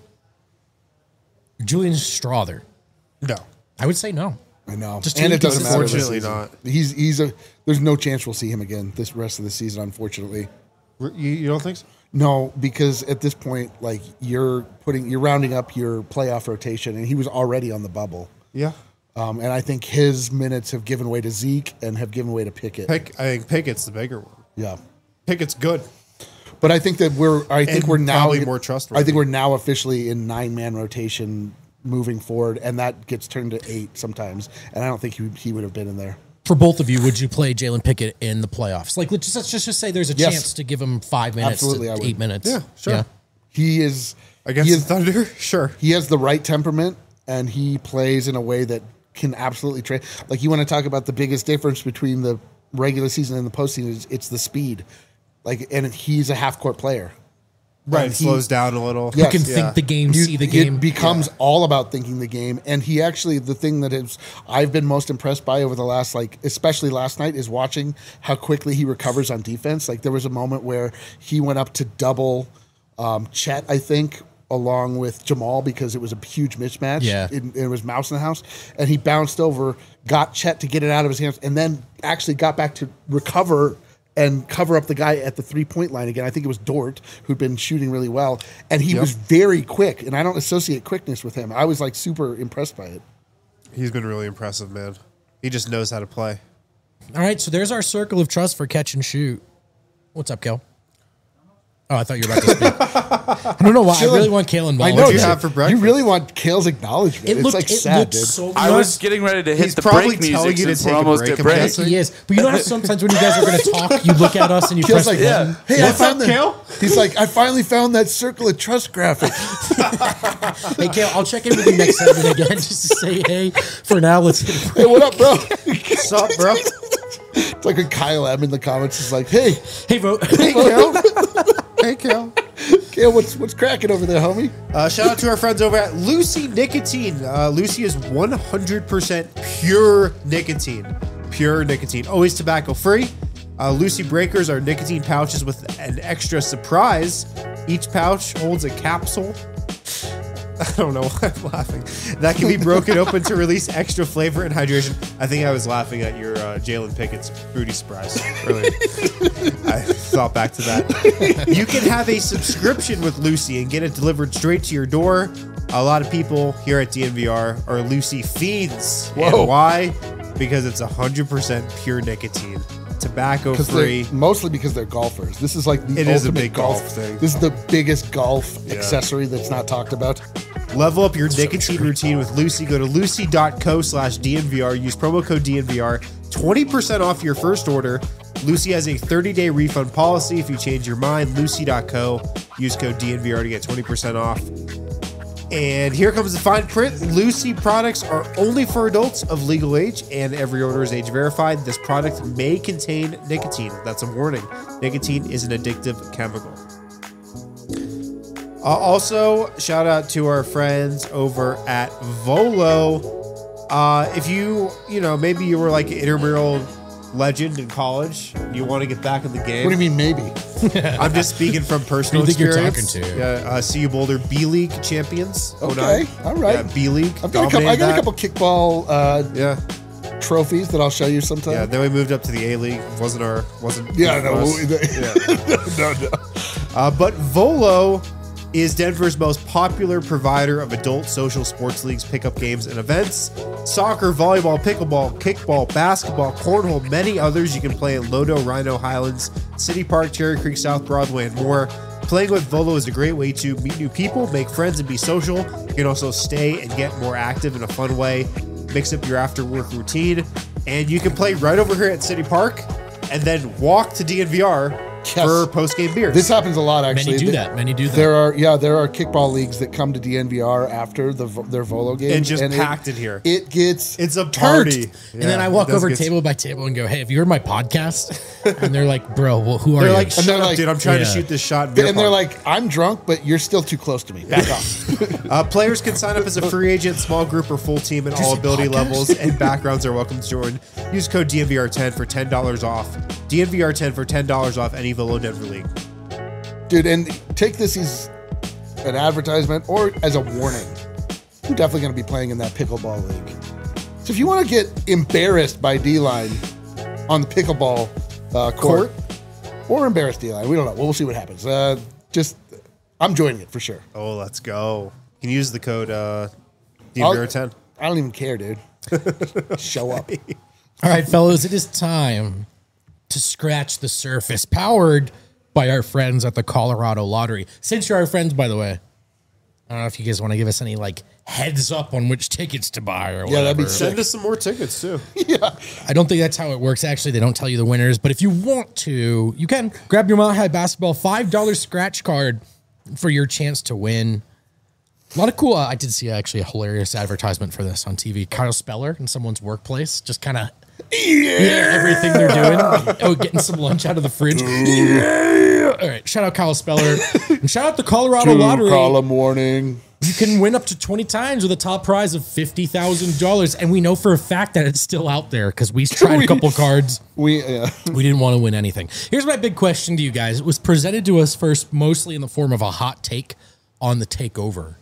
Julian Strother. No, I would say no. I know. Just and too it doesn't matter. this Unfortunately season. not. He's he's a. There's no chance we'll see him again this rest of the season. Unfortunately, you, you don't think so? no, because at this point, like you're putting, you're rounding up your playoff rotation, and he was already on the bubble. Yeah, Um, and I think his minutes have given way to Zeke and have given way to Pickett. Pick. I think Pickett's the bigger one. Yeah. Pickett's good. But I think that we're. I think And we're now probably more trustworthy. I think we're now officially in nine man rotation moving forward, and that gets turned to eight sometimes. And I don't think he, he would have been in there. For both of you, would you play Jalen Pickett in the playoffs? Like, let's just, let's just, just say there's a Yes. chance to give him five minutes Absolutely, I to would. eight minutes. Yeah, sure. He is Against he the is, Thunder, sure. he has the right temperament, and he plays in a way that can absolutely trade. Like you want to talk about the biggest difference between the regular season and the postseason is it's the speed. Like, and he's a half court player. Right, And he- slows down a little. Yeah. Who can Yes, think the game, You- see the game. It becomes all about thinking the game, and he actually the thing that is I've been most impressed by over the last like especially last night is watching how quickly he recovers on defense. Like there was a moment where he went up to double um, Chet, I think, along with Jamal because it was a huge mismatch. Yeah. it, it was mouse in the house, and he bounced over, got Chet to get it out of his hands, and then actually got back to recover and cover up the guy at the three-point line again. I think it was Dort, who'd been shooting really well. And he Yep. was very quick, and I don't associate quickness with him. I was, like, super impressed by it. He's been really impressive, man. He just knows how to play. All right, so there's our circle of trust for catch and shoot. What's up, Kel? Oh, I thought you were about to speak. I don't know why. I really want Kale involved. I know. What'd you you- have for You breakfast? really want Kale's acknowledgement. It it's, looked, like, it sad, looked dude. so I you was know, getting ready to hit He's the probably break telling music you to since take we're a almost break. at I'm break. guessing. He is. But you know how sometimes when you guys are going to talk, you look at us and you Kale's press like, the button? hey, I found up, the, Kale? He's like, I finally found that circle of trust graphic. Hey, Kale, I'll check in with you next segment again just to say, hey, for now, let's hit a break. Hey, what up, bro? What's up, bro? It's like when Kyle M in the comments is like, hey, Hey, vote. hey, Kale. Hey, Kel. Kale, what's, what's cracking over there, homie? Uh, shout out to our friends over at Lucy Nicotine. Uh, Lucy is one hundred percent pure nicotine. Pure nicotine. Always tobacco free. Uh, Lucy Breakers are nicotine pouches with an extra surprise. Each pouch holds a capsule. I don't know why I'm laughing. That can be broken open to release extra flavor and hydration. I think I was laughing at your uh, Jalen Pickett's booty surprise earlier. I, thought back to that. You can have a subscription with Lucy and get it delivered straight to your door. A lot of people here at D N V R are Lucy fiends. Whoa. And why? Because it's one hundred percent pure nicotine. Tobacco free. Mostly because they're golfers. This is like the It ultimate is a big golf golf thing. This is the biggest golf Yeah. accessory that's not talked about. Level up your nicotine routine with Lucy. Go to lucy.co slash DNVR. Use promo code D N V R. twenty percent off your first order. Lucy has a thirty-day refund policy. If you change your mind, lucy dot co. Use code D N V R to get twenty percent off. And here comes the fine print. Lucy products are only for adults of legal age, and every order is age verified. This product may contain nicotine. That's a warning. Nicotine is an addictive chemical. Uh, also, shout out to our friends over at Volo. Uh, if you, you know, maybe you were like an intramural legend in college, you want to get back in the game. What do you mean, maybe? I'm just speaking from personal Who do you think you're experience. talking to? Yeah, uh, C U Boulder B League champions. oh Okay, nine. all right. Yeah, B League. I've got a couple, I got a dominated couple kickball uh, that. Yeah, trophies that I'll show you sometime. yeah. Then we moved up to the A League. Wasn't our wasn't. Yeah, good for no, us. we- no, no. Uh, but Volo is Denver's most popular provider of adult social sports leagues, pickup games, and events. Soccer, volleyball, pickleball, kickball, basketball, cornhole, many others you can play in Lodo, Rhino, Highlands, City Park, Cherry Creek, South Broadway, and more. Playing with Volo is a great way to meet new people, make friends, and be social. You can also stay and get more active in a fun way, mix up your after-work routine, and you can play right over here at City Park and then walk to D N V R Yes. for post-game beers. This happens a lot, actually. Many do Th- that. Many do that. There are, yeah, there are kickball leagues that come to D N V R after the vo- their Volo games. And just it- packed in here. It gets It's a turned. party. and then Yeah, I walk it does over get- table by table and go, "Hey, have you heard my podcast?" And they're like, "Bro, well, who are They're you?" like, shut they're up, like- dude. I'm trying to Yeah. shoot this shot. in beer And they're pong." like, I'm drunk, but you're still too close to me. Back off. uh, players can sign up as a free agent, small group, or full team at all say ability podcast? levels, and backgrounds are welcome to join. Use code D N V R ten for ten dollars off. D N V R ten for ten dollars off any Volo Denver League. Dude, and take this as an advertisement or as a warning. You're definitely going to be playing in that pickleball league. So if you want to get embarrassed by D-Line on the pickleball uh, court, or embarrass D-Line, we don't know. We'll see what happens. Uh, just, I'm joining it for sure. Oh, let's go. You can use the code uh, D N V R ten. I don't even care, dude. Show up. All right, fellas, it is time to scratch the surface, powered by our friends at the Colorado Lottery. Since you're our friends, by the way, I don't know if you guys want to give us any like heads up on which tickets to buy or whatever. Yeah, that'd be sick. Send us some more tickets, too. I don't think that's how it works. Actually, they don't tell you the winners. But if you want to, you can grab your Mile High Basketball five dollar scratch card for your chance to win. A lot of cool. Uh, I did see actually a hilarious advertisement for this on T V. Kyle Speller in someone's workplace, just kind of yeah, everything they're doing. Oh, getting some lunch out of the fridge. Yeah. All right, shout out Kyle Speller and shout out the Colorado Lottery. Column warning. You can win up to twenty times with a top prize of fifty thousand dollars, and we know for a fact that it's still out there because we tried a couple cards. We, uh, We didn't want to win anything. Here's my big question to you guys. It was presented to us first mostly in the form of a hot take on the takeover.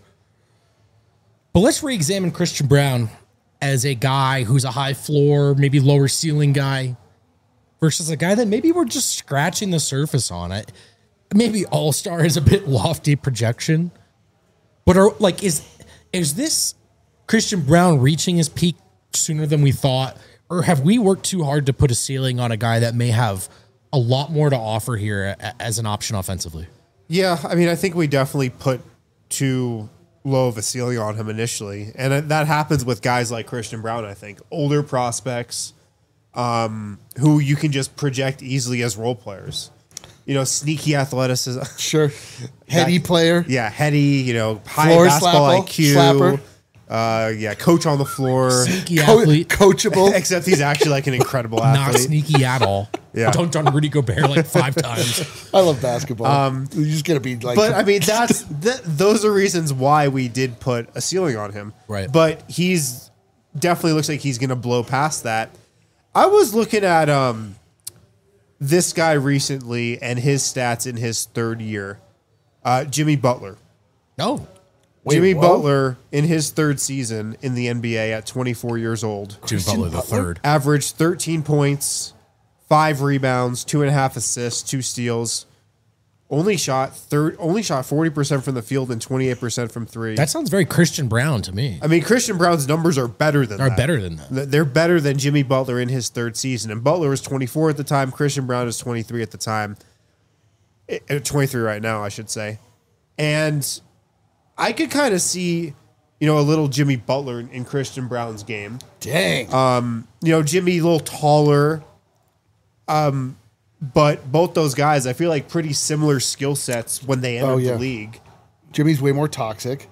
But let's re-examine Christian Braun as a guy who's a high floor, maybe lower ceiling guy versus a guy that maybe we're just scratching the surface on it. Maybe all-star is a bit lofty projection. But are, like, is is this Christian Braun reaching his peak sooner than we thought? Or have we worked too hard to put a ceiling on a guy that may have a lot more to offer here a- as an option offensively? Yeah, I mean, I think we definitely put too low of a ceiling on him initially. And that happens with guys like Christian Braun, I think. Older prospects um, who you can just project easily as role players. You know, sneaky athleticism. sure. Heady That- player. Yeah, heady, you know, high Floor basketball slapper, I Q. slapper. Uh, yeah, coach on the floor. Sneaky Co- athlete. coachable. Except he's actually like an incredible Not athlete. sneaky at all. Yeah. Dunked on Rudy Gobert like five times. I love basketball. Um, You're just going to be like. But I mean, that's th- those are reasons why we did put a ceiling on him. Right. But he's definitely looks like he's going to blow past that. I was looking at um this guy recently and his stats in his third year. Uh, Jimmy Butler. No. Wait, Jimmy whoa. Butler in his third season in the N B A at twenty-four years old Jimmy Butler the third. averaged thirteen points, five rebounds, two and a half assists, two steals. Only shot third. Only shot forty percent from the field and twenty-eight percent from three. That sounds very Christian Brown to me. I mean, Christian Brown's numbers are better than Are that. better than that. Th- They're better than Jimmy Butler in his third season. And Butler was twenty-four at the time. Christian Brown is twenty-three at the time. Eh, eh, twenty-three right now, I should say. And I could kind of see, you know, a little Jimmy Butler in, in Christian Brown's game. Dang. Um, you know, Jimmy a little taller. Um, but both those guys, I feel like pretty similar skill sets when they entered Oh, yeah. the league. Jimmy's way more toxic.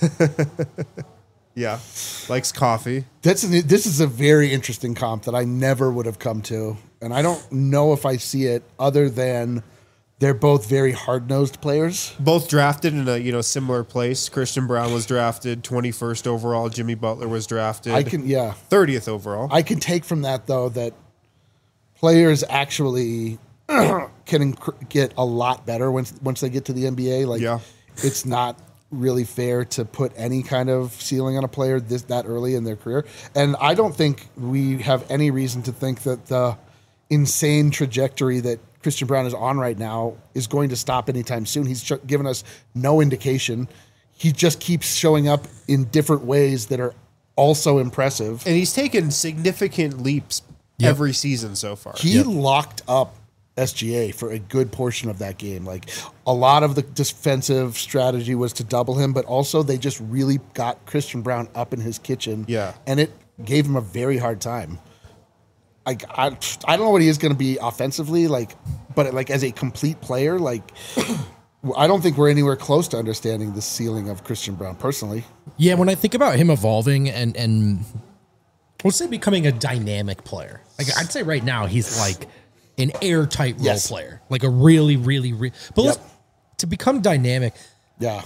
Yeah, likes coffee. That's an, this is a very interesting comp that I never would have come to, and I don't know if I see it other than they're both very hard-nosed players. Both drafted in a you know similar place. Christian Brown was drafted twenty-first overall. Jimmy Butler was drafted I can, yeah, thirtieth overall. I can take from that though that players actually can inc- get a lot better once once they get to the N B A. Like, Yeah. it's not really fair to put any kind of ceiling on a player this that early in their career. And I don't think we have any reason to think that the insane trajectory that Christian Brown is on right now is going to stop anytime soon. He's ch- given us no indication. He just keeps showing up in different ways that are also impressive. And he's taken significant leaps Yep. every season so far. He locked up S G A for a good portion of that game. Like, a lot of the defensive strategy was to double him, but also they just really got Christian Brown up in his kitchen. Yeah. And it gave him a very hard time. Like, I, I don't know what he is going to be offensively, like, but like as a complete player, like, I don't think we're anywhere close to understanding the ceiling of Christian Brown personally. Yeah, when I think about him evolving and and let's say becoming a dynamic player, like I'd say right now he's like an airtight role Yes. player, like a really, really, re- but Yep. let's, to become dynamic, Yeah.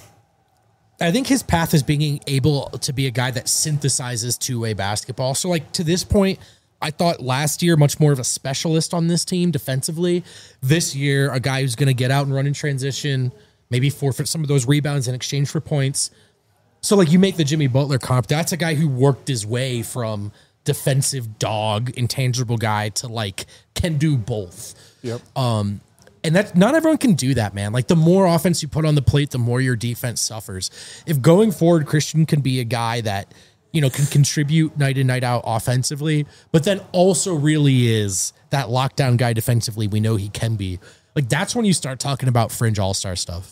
I think his path is being able to be a guy that synthesizes two-way basketball. So, like, to this point, I thought last year much more of a specialist on this team defensively. This year, a guy who's going to get out and run in transition, maybe forfeit some of those rebounds in exchange for points. So, like, you make the Jimmy Butler comp. That's a guy who worked his way from defensive dog, intangible guy to, like, can do both. Yep. Um, and that not everyone can do that, man. Like, the more offense you put on the plate, the more your defense suffers. If going forward, Christian can be a guy that, you know, can contribute night in, night out offensively, but then also really is that lockdown guy defensively we know he can be. Like, that's when you start talking about fringe all-star stuff,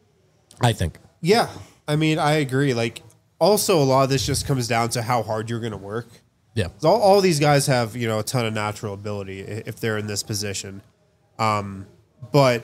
I think. Yeah, I mean, I agree. Like, also, a lot of this just comes down to how hard you're going to work. Yeah. All, all these guys have, you know, a ton of natural ability i- if they're in this position. Um, but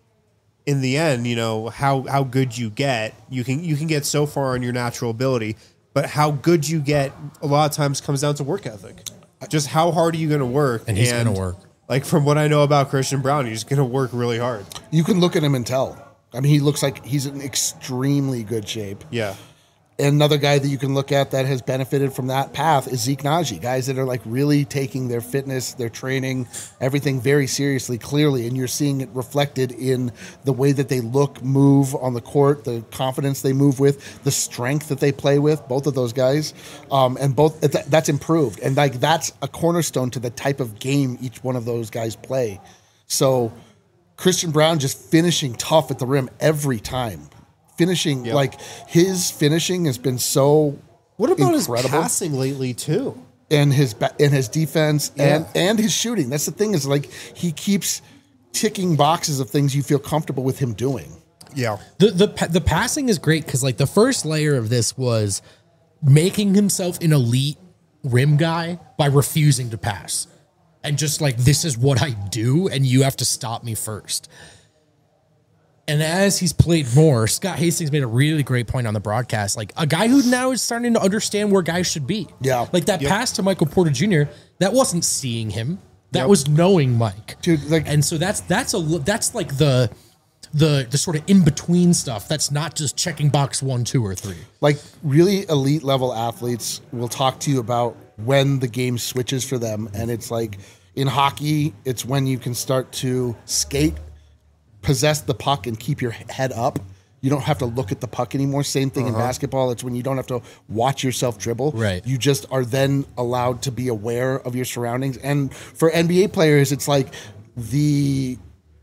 in the end, you know, how, how good you get, you can you can get so far on your natural ability, but how good you get a lot of times comes down to work ethic. Just how hard are you going to work? And he's gonna work. Like, from what I know about Christian Brown, he's going to work really hard. You can look at him and tell. I mean, he looks like he's in extremely good shape. Yeah. Another guy that you can look at that has benefited from that path is Zeke Naji. Guys that are like really taking their fitness, their training, everything very seriously, clearly, and you're seeing it reflected in the way that they look, move on the court, the confidence they move with, the strength that they play with. Both of those guys, um, and both th- that's improved, and like that's a cornerstone to the type of game each one of those guys play. So Christian Brown just finishing tough at the rim every time. Finishing, Yep. like, his finishing has been so What about incredible. his passing lately, too? and his ba- and his defense and Yeah. and his shooting. That's the thing, is like he keeps ticking boxes of things you feel comfortable with him doing. Yeah. The the pa- the passing is great because, like, the first layer of this was making himself an elite rim guy by refusing to pass. And just like, this is what I do, and you have to stop me first. And as he's played more, Scott Hastings made a really great point on the broadcast. Like, a guy who now is starting to understand where guys should be. Yeah. Like, that Yep. pass to Michael Porter Junior, that wasn't seeing him. That Yep. was knowing Mike. Dude, like- and so that's that's a li- that's like the the the sort of in between stuff. That's not just checking box one, two, or three. Like, really elite level athletes will talk to you about when the game switches for them, and it's like in hockey, it's when you can start to skate, possess the puck, and keep your head up. you don't have to look at the puck anymore. Same thing Uh-huh. in basketball. It's when you don't have to watch yourself dribble. Right. You just are then allowed to be aware of your surroundings. And for N B A players, it's like the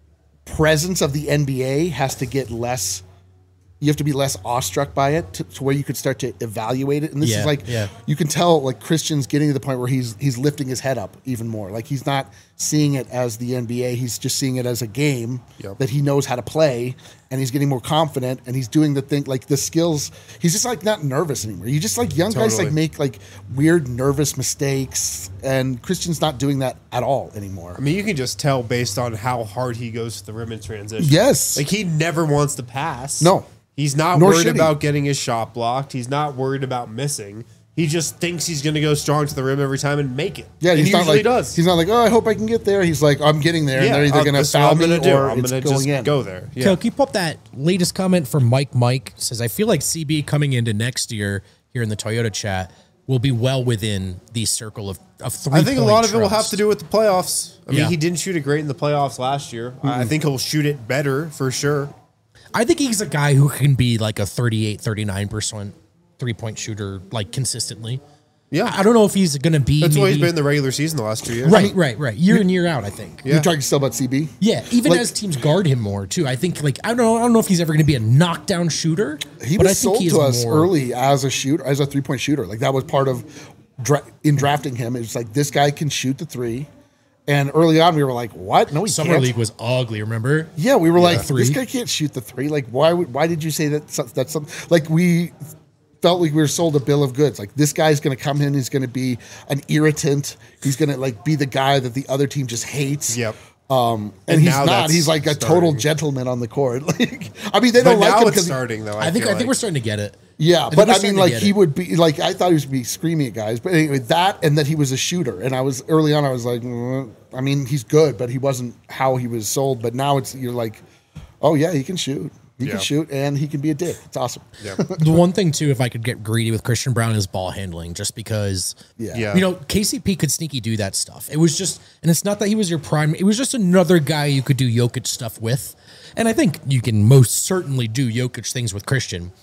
presence of the N B A has to get less. You have to be less awestruck by it to, to where you could start to evaluate it. And this Yeah, is like, yeah. you can tell like Christian's getting to the point where he's he's lifting his head up even more. Like he's not seeing it as the N B A. He's just seeing it as a game Yep. that he knows how to play, and he's getting more confident, and he's doing the thing like the skills. He's just like not nervous anymore. You just like young guys Totally. like make like weird nervous mistakes, and Christian's not doing that at all anymore. I mean, you can just tell based on how hard he goes to the rim in transition. Yes. Like he never wants to pass. No. He's not Nor worried should he. about getting his shot blocked. He's not worried about missing. He just thinks he's going to go strong to the rim every time and make it. Yeah, and he's he not usually like does. he's not like, oh, I hope I can get there. He's like, I'm getting there, and yeah, they're either uh, going to this is what foul I'm me gonna do. or I'm it's gonna going just in. go there. Yeah. Kel, keep up that latest comment from Mike. Mike says, I feel like C B coming into next year here in the Toyota chat will be well within the circle of, of three. I think a lot of it will have to do with the playoffs. I mean, Yeah. he didn't shoot it great in the playoffs last year. Mm-hmm. I think he'll shoot it better for sure. I think he's a guy who can be like a thirty-eight, thirty-nine percent three point shooter, like consistently. Yeah. I don't know if he's going to be. That's why he's maybe- been in the regular season the last two years. Right, right, right. Year in, year out, I think. Yeah. You're talking still about C B? Yeah, even Like- as teams guard him more too. I think like I don't know. I don't know if he's ever going to be a knockdown shooter. He but was I think sold he is to us more- early as a shooter, as a three point shooter. Like that was part of dra- in drafting him. It's like this guy can shoot the three. And early on, we were like, "What? No, he Summer can't." League was ugly. Remember? Yeah, we were like, Three. "This guy can't shoot the three. Like, why? Would, why did you say that? so- That's something like we felt like we were sold a bill of goods. Like this guy's going to come in. He's going to be an irritant. He's going to like be the guy that the other team just hates. Yep. Um, and, And he's now not. that's He's like a total starting. gentleman on the court. Like, I mean, they But don't like now him it's because starting, though. I, I think feel I think like. we're starting to get it. yeah, think but we're I starting mean, to like get he it. would be like I thought he was be screaming at guys, but anyway, that and that he was a shooter, and I was early on. I was like, mm, I mean, he's good, but he wasn't how he was sold. But now it's you're like, oh yeah, he can shoot, he Yeah. can shoot, and he can be a dick. It's awesome. Yeah. The one thing too, if I could get greedy with Christian Brown, is ball handling. Just because, Yeah. Yeah. you know, K C P could sneaky do that stuff. It was just, and it's not that he was your prime. It was just another guy you could do Jokic stuff with. And I think you can most certainly do Jokic things with Christian.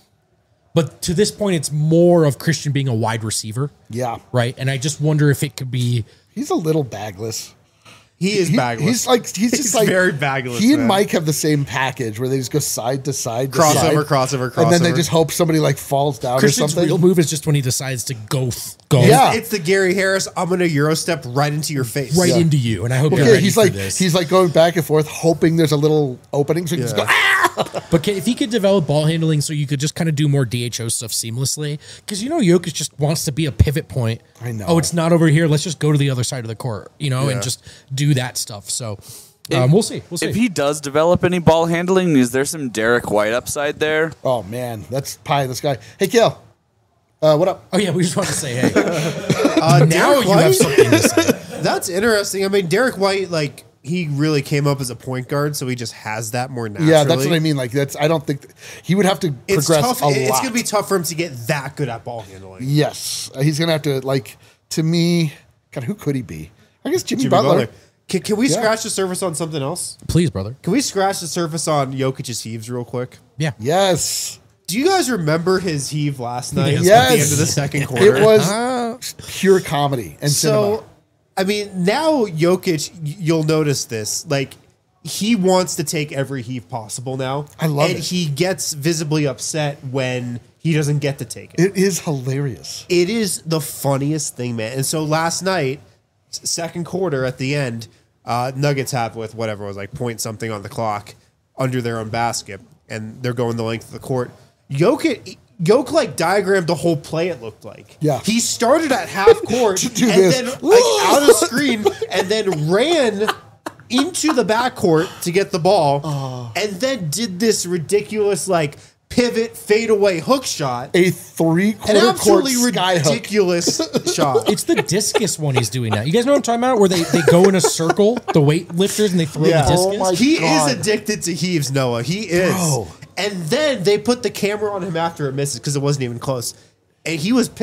But to this point, it's more of Christian being a wide receiver, Yeah, right? And I just wonder if it could be. he's a little bagless. He is He- bagless. He's like he's just He's like very bagless, He and man. Mike have the same package where they just go side to side, to Crossover, side, crossover, and then they crossover. just hope somebody like falls down or Christian's something. real move is just when he decides to go, th- go Yeah. It's the Gary Harris. I'm gonna Euro step right into your face. right Yeah. into you. And I hope you're Yeah, ready he's for like this. he's like going back and forth, hoping there's a little opening, so he can just Yeah. go. Ah! But can, if he could develop ball handling so you could just kind of do more D H O stuff seamlessly, because you know Jokic just wants to be a pivot point. I know. Oh, it's not over here. Let's just go to the other side of the court, you know, Yeah. and just do that stuff. So um, we'll see. We'll see. If he does develop any ball handling, is there some Derek White upside there? Oh man, that's pie in the sky. Hey, Kale, uh, what up? oh yeah, we just want to say, hey, Uh, now Derek you have White? something to say. That's interesting. I mean, Derek White, like he really came up as a point guard, so he just has that more naturally. Yeah, that's what I mean. Like that's I don't think he would have to It's progress tough. a It's lot. gonna be tough for him to get that good at ball handling. Yes, Uh, he's gonna have to like. To me, God, who could he be? I guess Jimmy, Jimmy Butler. Butler. Can, can we Yeah. scratch the surface on something else? Please, brother. Can we scratch the surface on Jokic's heaves real quick? Yeah. Yes, Do you guys remember his heave last night Yes. at yes. the end of the second quarter? It was pure comedy and So, cinema. I mean, now Jokic, y- you'll notice this. Like, he wants to take every heave possible now. I love and it. he gets visibly upset when he doesn't get to take it. It is hilarious. It is the funniest thing, man. And so last night, s- second quarter at the end, uh, Nuggets have with whatever it was like point something on the clock under their own basket, and they're going the length of the court. Jokic, Jokic like diagrammed the whole play. It looked like Yeah. he started at half court To do and this. then like out of screen, and then ran into the backcourt to get the ball, Oh. and then did this ridiculous like pivot fadeaway hook shot. A three An quarter court absolutely sky hook. ridiculous shot. It's the discus one he's doing now. You guys know what I'm talking about? Where they, they go in a circle, the weight-lifters, and they throw Yeah. the discus? Oh my He God. is addicted to heaves, Noah. He is. Bro. And then they put the camera on him after it misses because it wasn't even close. And he was pissed.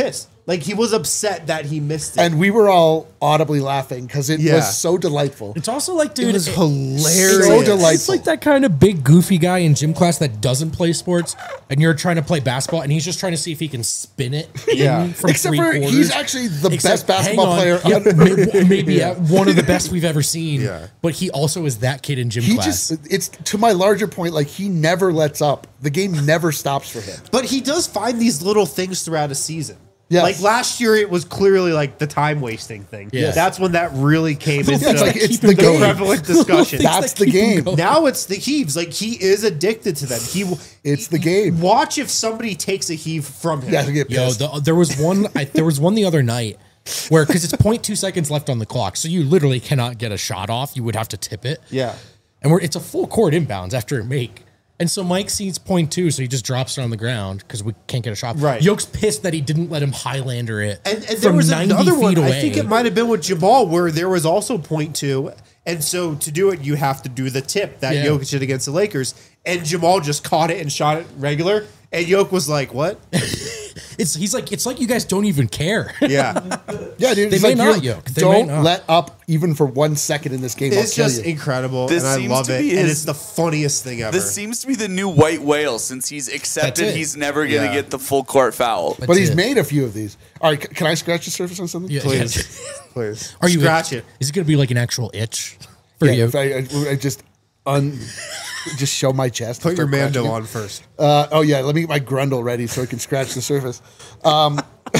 Like he was upset that he missed it. And we were all audibly laughing because it Yeah. was so delightful. It's also like, dude, it was it- hilarious. So delightful. It's like that kind of big goofy guy in gym class that doesn't play sports, and you're trying to play basketball, and he's just trying to see if he can spin it. Yeah. in from Except three for quarters. he's actually the Except- best basketball hang on. player. Yep, maybe maybe uh, one of the best we've ever seen. Yeah. But he also is that kid in gym He class. just, it's to my larger point, like he never lets up. The game never stops for him. But he does find these little things throughout a season. Yes. Like last year, it was clearly like the time wasting thing. Yes. That's when that really came into Yeah, it's like it's keep the it going. game. prevalent discussion. Things That's that the keep him game. going. Now it's the heaves. Like he is addicted to them. He It's the game. Watch if somebody takes a heave from him. Yeah, to get Yo, pissed. the, there was one. I, there was one the other night where because it's zero point two seconds left on the clock, so you literally cannot get a shot off. You would have to tip it. Yeah. And we're it's a full court inbounds after a make. And so Mike sees point two, so he just drops it on the ground because we can't get a shot. Right. Yoke's pissed that he didn't let him Highlander it. And, and there from was ninety another feet one. away. I think it might have been with Jamal where there was also point two. And so to do it, you have to do the tip that Yeah. Jokic did against the Lakers. And Jamal just caught it and shot it regular. And Jokic was like, what? It's he's like it's like you guys don't even care. Yeah. Yeah, dude. They it's may like not, you're- Yoke. They may Don't not. let up even for one second in this game. I'll It's kill just you. incredible. This and I seems love to it. be And his- it's the funniest thing ever. This seems to be the new white whale since he's accepted it. he's never going to Yeah. get the full court foul. But he's it. made a few of these. All right, c- can I scratch the surface on something? Yeah, Please. yeah. Please. Are you Scratch it. Is it going to be like an actual itch for Yeah, you? if I, I, I just un, just show my chest. Put your Start Mando scratching it. on first. Uh, oh yeah, let me get my Grundle ready so I can scratch the surface. Um,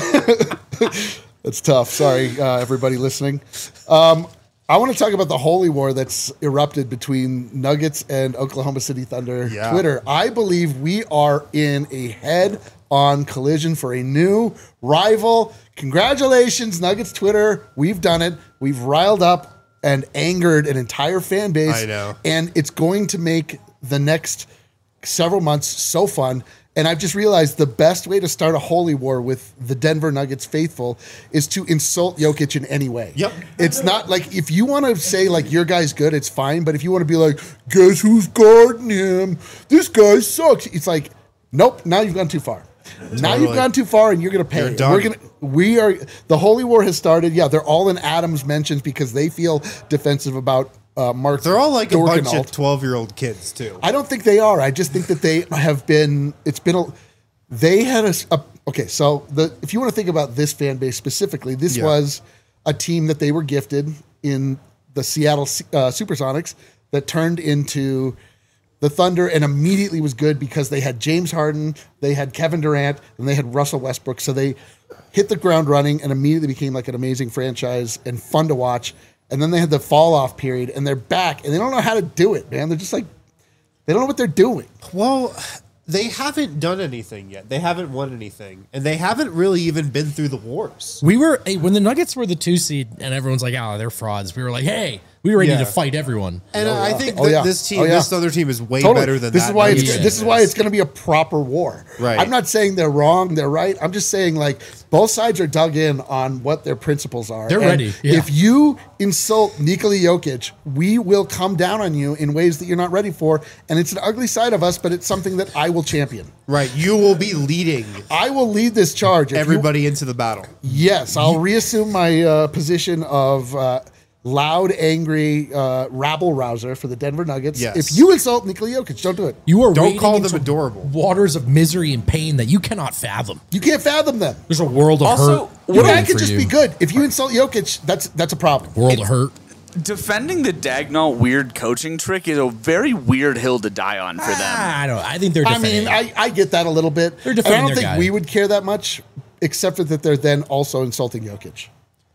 that's tough. Sorry, uh, everybody listening. Um, I want to talk about the holy war that's erupted between Nuggets and Oklahoma City Thunder Yeah. Twitter. I believe we are in a head-on collision for a new rival. Congratulations, Nuggets Twitter. We've done it. We've riled up and angered an entire fan base. I know. And it's going to make the next several months so fun. And I've just realized the best way to start a holy war with the Denver Nuggets faithful is to insult Jokic in any way. Yep. It's not like if you want to say like your guy's good, it's fine. But if you want to be like, guess who's guarding him? This guy sucks. It's like, nope. Now you've gone too far. Now you've Totally. gone too far, and you're going to pay. You're And done. We're gonna. We are. The holy war has started. Yeah, they're all in Adams mentions because they feel defensive about uh, Mark. They're all like a bunch Dorkenalt. of twelve-year-old kids, too. I don't think they are. I just think that they have been. It's been a. They had a. s- a- okay, so the if you want to think about this fan base specifically, this Yeah. was a team that they were gifted in the Seattle uh, SuperSonics that turned into the Thunder and immediately was good because they had James Harden, they had Kevin Durant, and they had Russell Westbrook. So they hit the ground running and immediately became like an amazing franchise and fun to watch. And then they had the fall off period and they're back and they don't know how to do it, man. They're just like, they don't know what they're doing. Well, they haven't done anything yet. They haven't won anything. And they haven't really even been through the wars. We were hey, when the Nuggets were the two seed, and everyone's like, "Oh, they're frauds." We were like, "Hey, we were ready Yeah. to fight everyone." And Oh, I yeah. think Oh, that yeah. this team, Oh, yeah. this other team is way Totally. better than this that. is why it's Nuggets Yeah. this team is why is. it's going to be a proper war. Right. I'm not saying they're wrong, they're right. I'm just saying like both sides are dug in on what their principles are. They're And ready, yeah. If you insult Nikola Jokic, we will come down on you in ways that you're not ready for, and it's an ugly side of us, but it's something that I will champion. Right. You will be leading I will lead this charge. If you- everybody into the battle. yes, I'll reassume my uh, position of uh, loud, angry uh, rabble rouser for the Denver Nuggets. Yes. If you insult Nikola Jokic, don't do it. You are Don't wading call them into adorable. waters of misery and pain that you cannot fathom. You can't fathom them. There's a world of Also, hurt. Your guy waiting could for just you. be good. If you insult Jokic, that's that's a problem. World of hurt. Defending the Dagnall weird coaching trick is a very weird hill to die on for them. Ah, I don't. I think they're. I Defending. mean, I, I get that a little bit. They're And I defending don't their think guy. we would care that much, except for that they're then also insulting Jokic.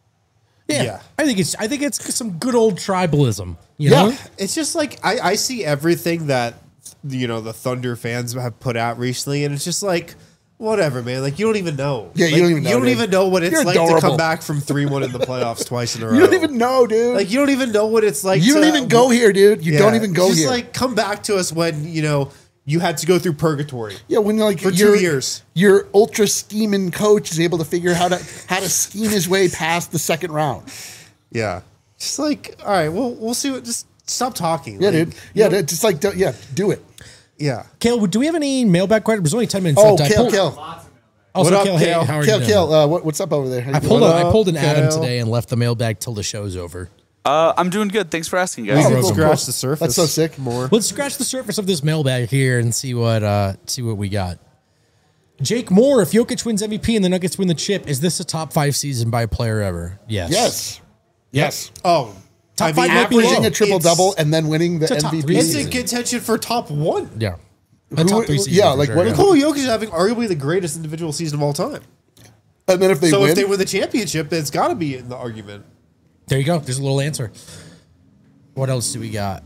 yeah, yeah. I think it's. I think it's some good old tribalism. You Yeah. know. It's just like I, I see everything that you know the Thunder fans have put out recently, and it's just like whatever, man. Like you don't even know. Yeah, you Like, don't even know, You don't dude. even know what it's You're like to adorable. come back from three one in the playoffs twice in a row. You don't even know, dude. Like you don't even know what it's like. you don't to- even go here, dude. You Yeah, don't even go just here. like come back to us when you know you had to go through purgatory. yeah, when you're like for two your- years. your ultra scheming coach is able to figure how to how to scheme his way past the second round. Yeah, just like all right, well we'll see what. Just stop talking. Yeah, Like, dude. Yeah, dude, just like do- yeah, do it. Yeah. Kale, do we have any mailbag questions? There's only ten minutes Oh, left. I Kale, pulled- Kale. Also, What up, Kale, hey, Kale? how are you Kale, doing? Kale, uh, what, what's up over there? How you I pulled, doing? a, I pulled an What up, Adam Kale? today and left the mailbag till the show's over. Uh, I'm doing good. Thanks for asking, guys. Oh, We cool, can cool. scratch the surface. That's so sick. More. Let's scratch the surface of this mailbag here and see what uh, see what we got. Jake Moore, if Jokic wins M V P and the Nuggets win the chip, is this a top five season by a player ever? Yes. Yes. Yes. Oh, Top I mean, five might be Averaging low. a triple It's- double and then winning the It's a top M V three P. It's season. in contention for top one. Yeah. A Who- top three season. yeah, for like, sure, what- yeah. Nikola Jokic is having arguably the greatest individual season of all time. And then if they So win, if they win the championship, it's got to be in the argument. There you go. There's a little answer. What else do we got?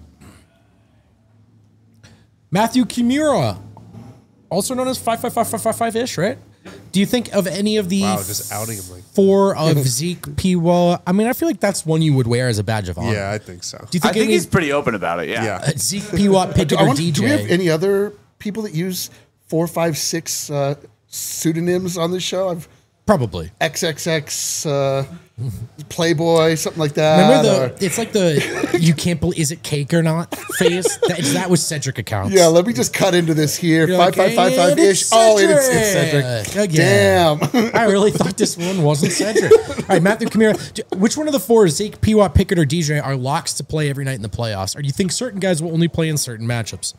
Matthew Kimura, also known as five five five five five five ish, right? Do you think of any of the Wow, just outing him like. four of Zeke P? Well, I mean, I feel like that's one you would wear as a badge of honor. Yeah, I think so. Do you I think, think any, he's pretty open about it. Yeah. Yeah. uh, Zeke P. Watt, Pickett, I or want, D J? do we have any other people that use four, five, six uh, pseudonyms on this show? I've Probably. X X X uh, Playboy, something like that. Remember or- the? It's like the you can't believe is it cake or not phase. That, that was Centric accounts. yeah, let me just cut into this here. You're Five, like, five, five, five "And ish. it's Oh, and it's, it's Cedric." Cedric. Again. Damn. I really thought this one wasn't Cedric. All right, Matthew Kamira. do- Which one of the four, Zeke, P. Watt, Pickett, or D J, are locks to play every night in the playoffs? Or do you think certain guys will only play in certain matchups?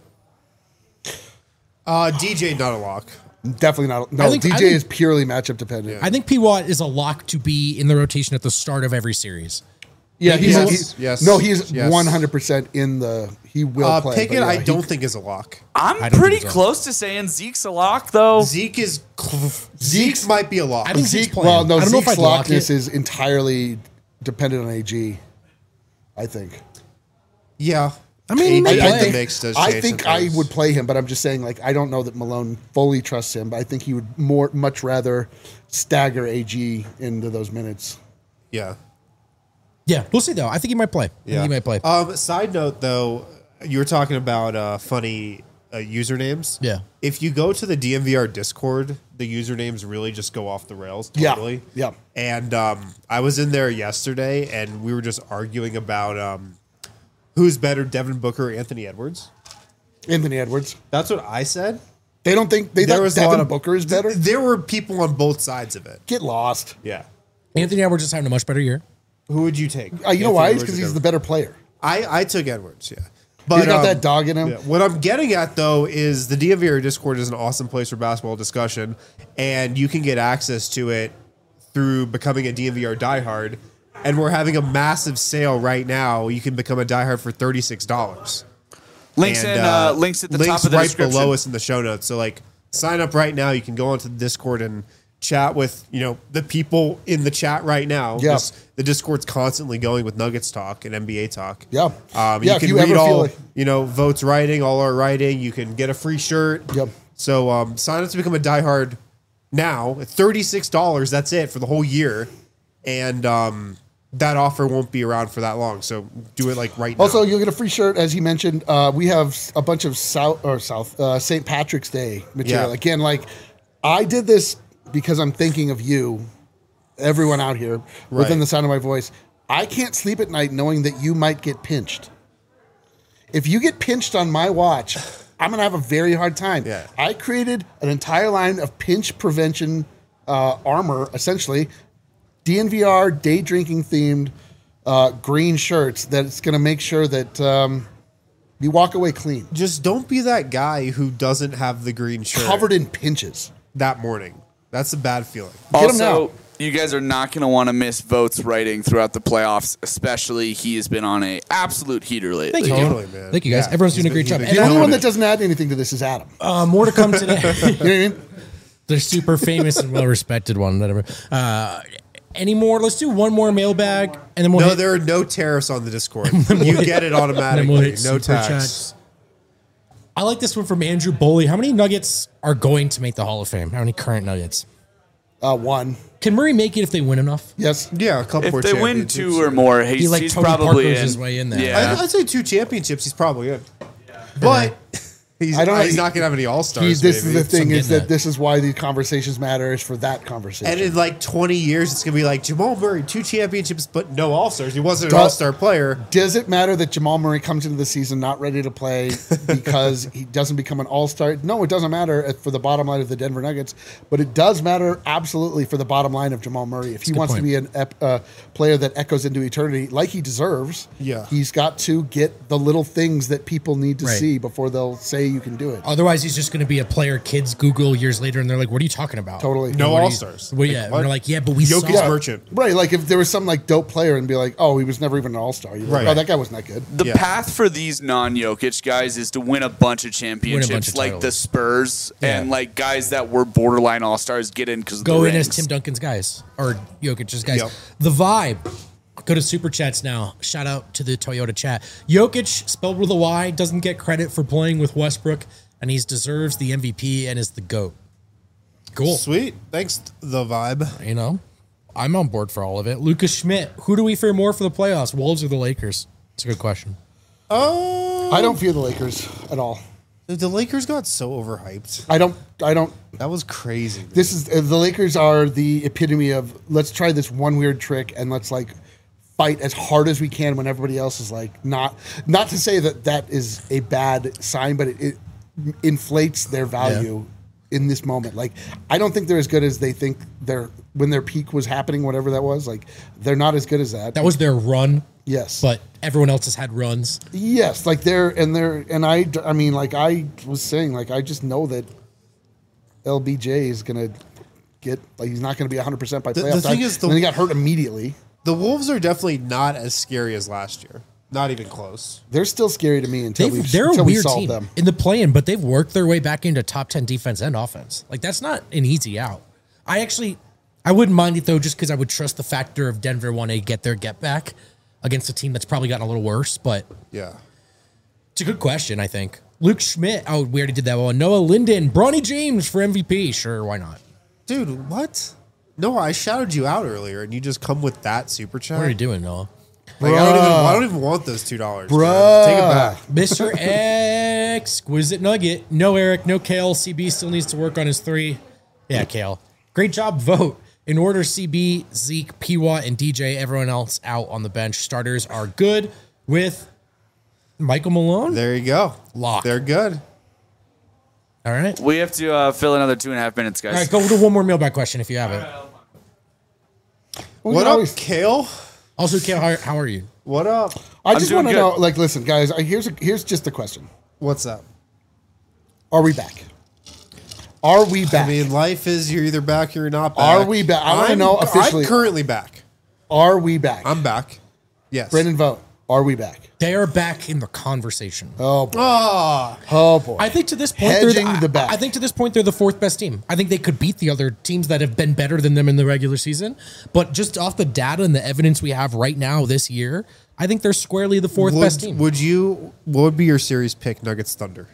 Uh, D J, not a lock. Definitely not. I No, think- D J I think- is purely matchup dependent. I think P. Watt is a lock to be in the rotation at the start of every series. Yeah, he's, Yes, he's yes, no, he's yes. one hundred percent in the. He will Uh, play. Pickett, but yeah, I he- don't think is a lock. I'm I don't pretty think so. close to saying Zeke's a lock, though. Zeke is Zeke might be a lock. I think Zeke's Zeke. playing. Well, no, I don't know if Zeke's I'd lock lockness it. is entirely dependent on A G. I think. yeah. I mean, A G I- I in the think, mix does I change think some I things. would play him, but I'm just saying, like, I don't know that Malone fully trusts him. But I think he would more, much rather stagger A G into those minutes. Yeah. Yeah, we'll see though. I think he might play. I think Yeah. he might play. Um, side note though, you were talking about uh, funny uh, usernames. Yeah. If you go to the D M V R Discord, the usernames really just go off the rails. Yeah, Totally. yeah. And um, I was in there yesterday, and we were just arguing about um, who's better, Devin Booker or Anthony Edwards. Anthony Edwards. That's what I said. They don't think they There thought was a lot Devin of Booker is better. There were people on both sides of it. Get lost. Yeah. Anthony Edwards is having a much better year. Who would you take? Uh, you know Anthony why? It's Edwards because or he's the Devin? better player. I, I took Edwards, yeah. But He's got um, that dog in him. yeah, what I'm getting at though is the D M V R Discord is an awesome place for basketball discussion, and you can get access to it through becoming a D M V R diehard. And we're having a massive sale right now. You can become a diehard for thirty-six dollars. Links in uh, links at the top of the right description. below us in the show notes. So like, sign up right now. You can go onto the Discord and chat with you know the people in the chat right now. Yeah. This- the Discord's constantly going with Nuggets talk and N B A talk. Yeah. um, Yeah, you if can you read ever feel all like- you know Votes writing, all our writing. You can get a free shirt. Yep. So um, sign up to become a diehard now. At thirty-six dollars. That's it for the whole year, and um, that offer won't be around for that long. So do it like right now. Also, you'll get a free shirt, as he mentioned. Uh, we have a bunch of South or South uh, Saint Patrick's Day material. Yeah. Again, like I did this because I'm thinking of you, everyone out here within Right. the sound of my voice. I can't sleep at night knowing that you might get pinched. If you get pinched on my watch, I'm gonna have a very hard time. Yeah. I created an entire line of pinch prevention uh, armor, essentially D N V R day drinking themed uh, green shirts that's going to make sure that um, you walk away clean, just don't be that guy who doesn't have the green shirt covered in pinches. that morning. That's a bad feeling. Get 'em Also, now. you guys are not going to want to miss Votes writing throughout the playoffs, especially he has been on a absolute heater lately. Thank you. Totally, man. Thank you guys. Yeah. Everyone's doing a He's great been- job. he's And The been only killing one that it. doesn't add anything to this is Adam. uh, more to come today. You know what I mean? The super famous and well respected one. Whatever. Uh, any more? Let's do one more mailbag, and then we'll No, hit, there are no tariffs on the Discord. You get it and then automatically. we'll hit No super tax. chats. I like this one from Andrew Boley. How many Nuggets are going to make the Hall of Fame? How many current Nuggets? Uh, one. Can Murray make it if they win enough? Yes. Yeah, a couple If more they win championships. two or more, he's, He, like, he's Tony probably Parker's in. his way in there. I, Yeah. I'd say two championships. He's probably in. But He's, I don't know. he's not going to have any All He, Stars. this is the thing I'm is getting that that. this is why these conversations matter is for that conversation. And in like twenty years, it's going to be like Jamal Murray, two championships, but no All Stars. He wasn't an Does- All Star player. Does it matter that Jamal Murray comes into the season not ready to play because he doesn't become an all-star? No, it doesn't matter for the bottom line of the Denver Nuggets, but it does matter absolutely for the bottom line of Jamal Murray. If he good wants point. to be an ep- uh, player that echoes into eternity like he deserves, Yeah. he's got to get the little things that people need to Right. see before they'll say you can do it. Otherwise, he's just going to be a player kids Google years later, and they're like, "What are you talking about?" Totally. No What do All you- Stars. Well, yeah, and what? they're like, "Yeah, but we Jokic saw." Merchant. Right, like if there was some like dope player and be like, oh, he was never even an all-star. You're like, Right. oh, that guy wasn't that good. The Yeah. path for these non-Jokic guys is to win a bunch of championships, of like titles. the Spurs Yeah. and like guys that were borderline all stars get in because Go the in as rings. Tim Duncan's guys or Jokic's guys. Yep. The vibe. Go to super chats now. Shout out to the Toyota chat. Jokic, spelled with a Y, doesn't get credit for playing with Westbrook, and he deserves the M V P and is the GOAT. Cool. Sweet. Thanks, the vibe. You know, I'm on board for all of it. Lucas Schmidt, who do we fear more for the playoffs, Wolves or the Lakers? It's a good question. Oh, I don't fear the Lakers at all. the Lakers got so overhyped. I don't. I don't. That was crazy. dude. This is uh, the Lakers are the epitome of let's try this one weird trick and let's like fight as hard as we can when everybody else is like not. Not to say that that is a bad sign, but it, it inflates their value in this moment. Like I don't think they're as good as they think they're when their peak was happening, whatever that was. Like they're not as good as that. That was their run, yes, but everyone else has had runs. yes, like they're and they're and I. I mean, like I was saying, like I just know that L B J is gonna get like he's not gonna be one hundred percent by The- the playoff thing time. is the- and then he got hurt immediately. The Wolves are definitely not as scary as last year. Not even close. They're still scary to me until we They've, they're a until we weird solve team them. in the play-in, but they've worked their way back into top ten defense and offense. Like that's not an easy out. I actually, I wouldn't mind it though, just because I would trust the factor of Denver want to get their get back against a team that's probably gotten a little worse. But Yeah. it's a good question, I think. Luke Schmidt, oh, we already did that one. Noah Linden, Bronny James for M V P. Sure, why not? Dude, what? No, I shouted you out earlier, and you just come with that super chat. What are you doing, Noah? Like, I, don't even, I don't even want those two dollars. Bruh. Take it back. Mister Exquisite Nugget. No Eric, no Kale. C B still needs to work on his three. Yeah, Kale. Great job, vote. In order, C B, Zeke, P W A, and D J, everyone else out on the bench. Starters are good with Michael Malone. There you go. Lock. They're good. All right. We have to uh, fill another two and a half minutes, guys. All right, go to one more mailbag question if you have it. We What can up, always- Kale? Also, Kale, how, how are you? What up? I just doing want to good. know. Like, listen, guys. I, here's a, here's just the question: What's up? Are we back? Are we back? I mean, life is you're either back or you're not back. Are we back? I wanna I'm- know officially. I'm currently back. Are we back? I'm back. Yes. Brendan, vote. Are we back? They are back in the conversation. Oh boy. Ah, Oh boy. I think to this point, they're Hedging the, the bet. I, I think to this point they're the fourth best team. I think they could beat the other teams that have been better than them in the regular season. But just off the data and the evidence we have right now this year, I think they're squarely the fourth would, best team. would you? What would be your series pick? Nuggets Thunder.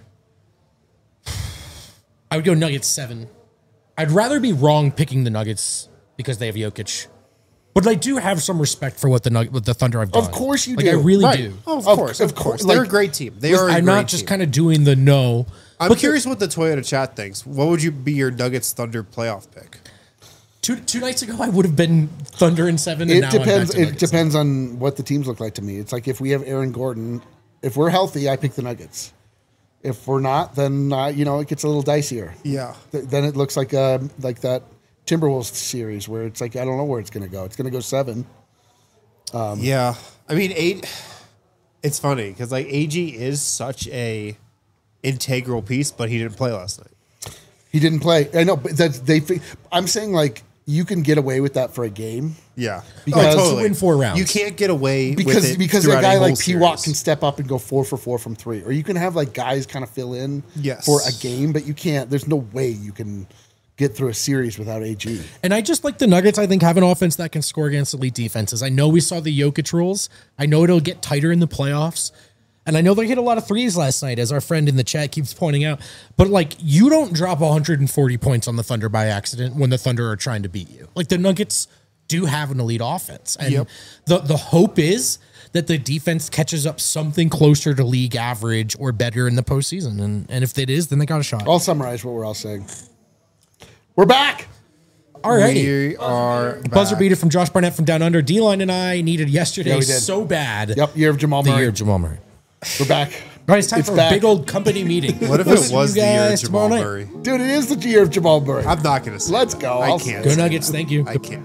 I would go Nuggets seven. I'd rather be wrong picking the Nuggets because they have Jokic, but I do have some respect for what the Nug- what the Thunder have done. Of course you like, do. I really Right. do. Oh, of, Of- course, of of course. course. They're Like, a great team. They are. A I'm great not just team. kind of doing the no. I'm but curious what the Toyota chat thinks. What would you be your Nuggets Thunder playoff pick? Two two nights ago, I would have been Thunder in seven. And It now I'm back depends. to It Nuggets. depends on what the teams look like to me. It's like if we have Aaron Gordon, if we're healthy, I pick the Nuggets. If we're not, then uh, you know it gets a little dicier. Yeah. Th- then it looks like uh, like that Timberwolves series where it's like I don't know where it's going to go. It's going to go seven. Yeah. I mean, eight. It's funny because like A G is such a integral piece, but he didn't play last night. He didn't play. I know, but that's they. fi- I'm saying like you can get away with that for a game Yeah. Because- oh, To win four rounds. You can't get away with because it because a throughout guy whole like P W A series. can step up and go four for four from three, or you can have like guys kind of fill in Yes. for a game, but you can't. There's no way you can get through a series without A G. And I just like the Nuggets, I think, have an offense that can score against elite defenses. I know we saw the Jokic rules. I know it'll get tighter in the playoffs. And I know they hit a lot of threes last night, as our friend in the chat keeps pointing out. But, like, you don't drop one hundred forty points on the Thunder by accident when the Thunder are trying to beat you. Like, the Nuggets do have an elite offense. And Yep. the, the hope is that the defense catches up something closer to league average or better in the postseason. And, and if it is, then they got a shot. I'll summarize what we're all saying. We're back. Alrighty. We are Buzzer back. beater from Josh Barnett from Down Under. D-Line and I needed yesterday Yeah, we did. so bad. Yep, year of Jamal The Murray. year of Jamal Murray. We're back. All right, it's time It's for back. a big old company meeting. What if We'll it see was you the year of guys Jamal tomorrow night. Murray? Dude, it is the year of Jamal Murray. I'm not going to say Let's that. go. I I'll- can't. Go say Nuggets. that. Thank you. I can't.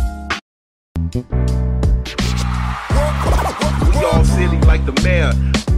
We all silly like the mayor.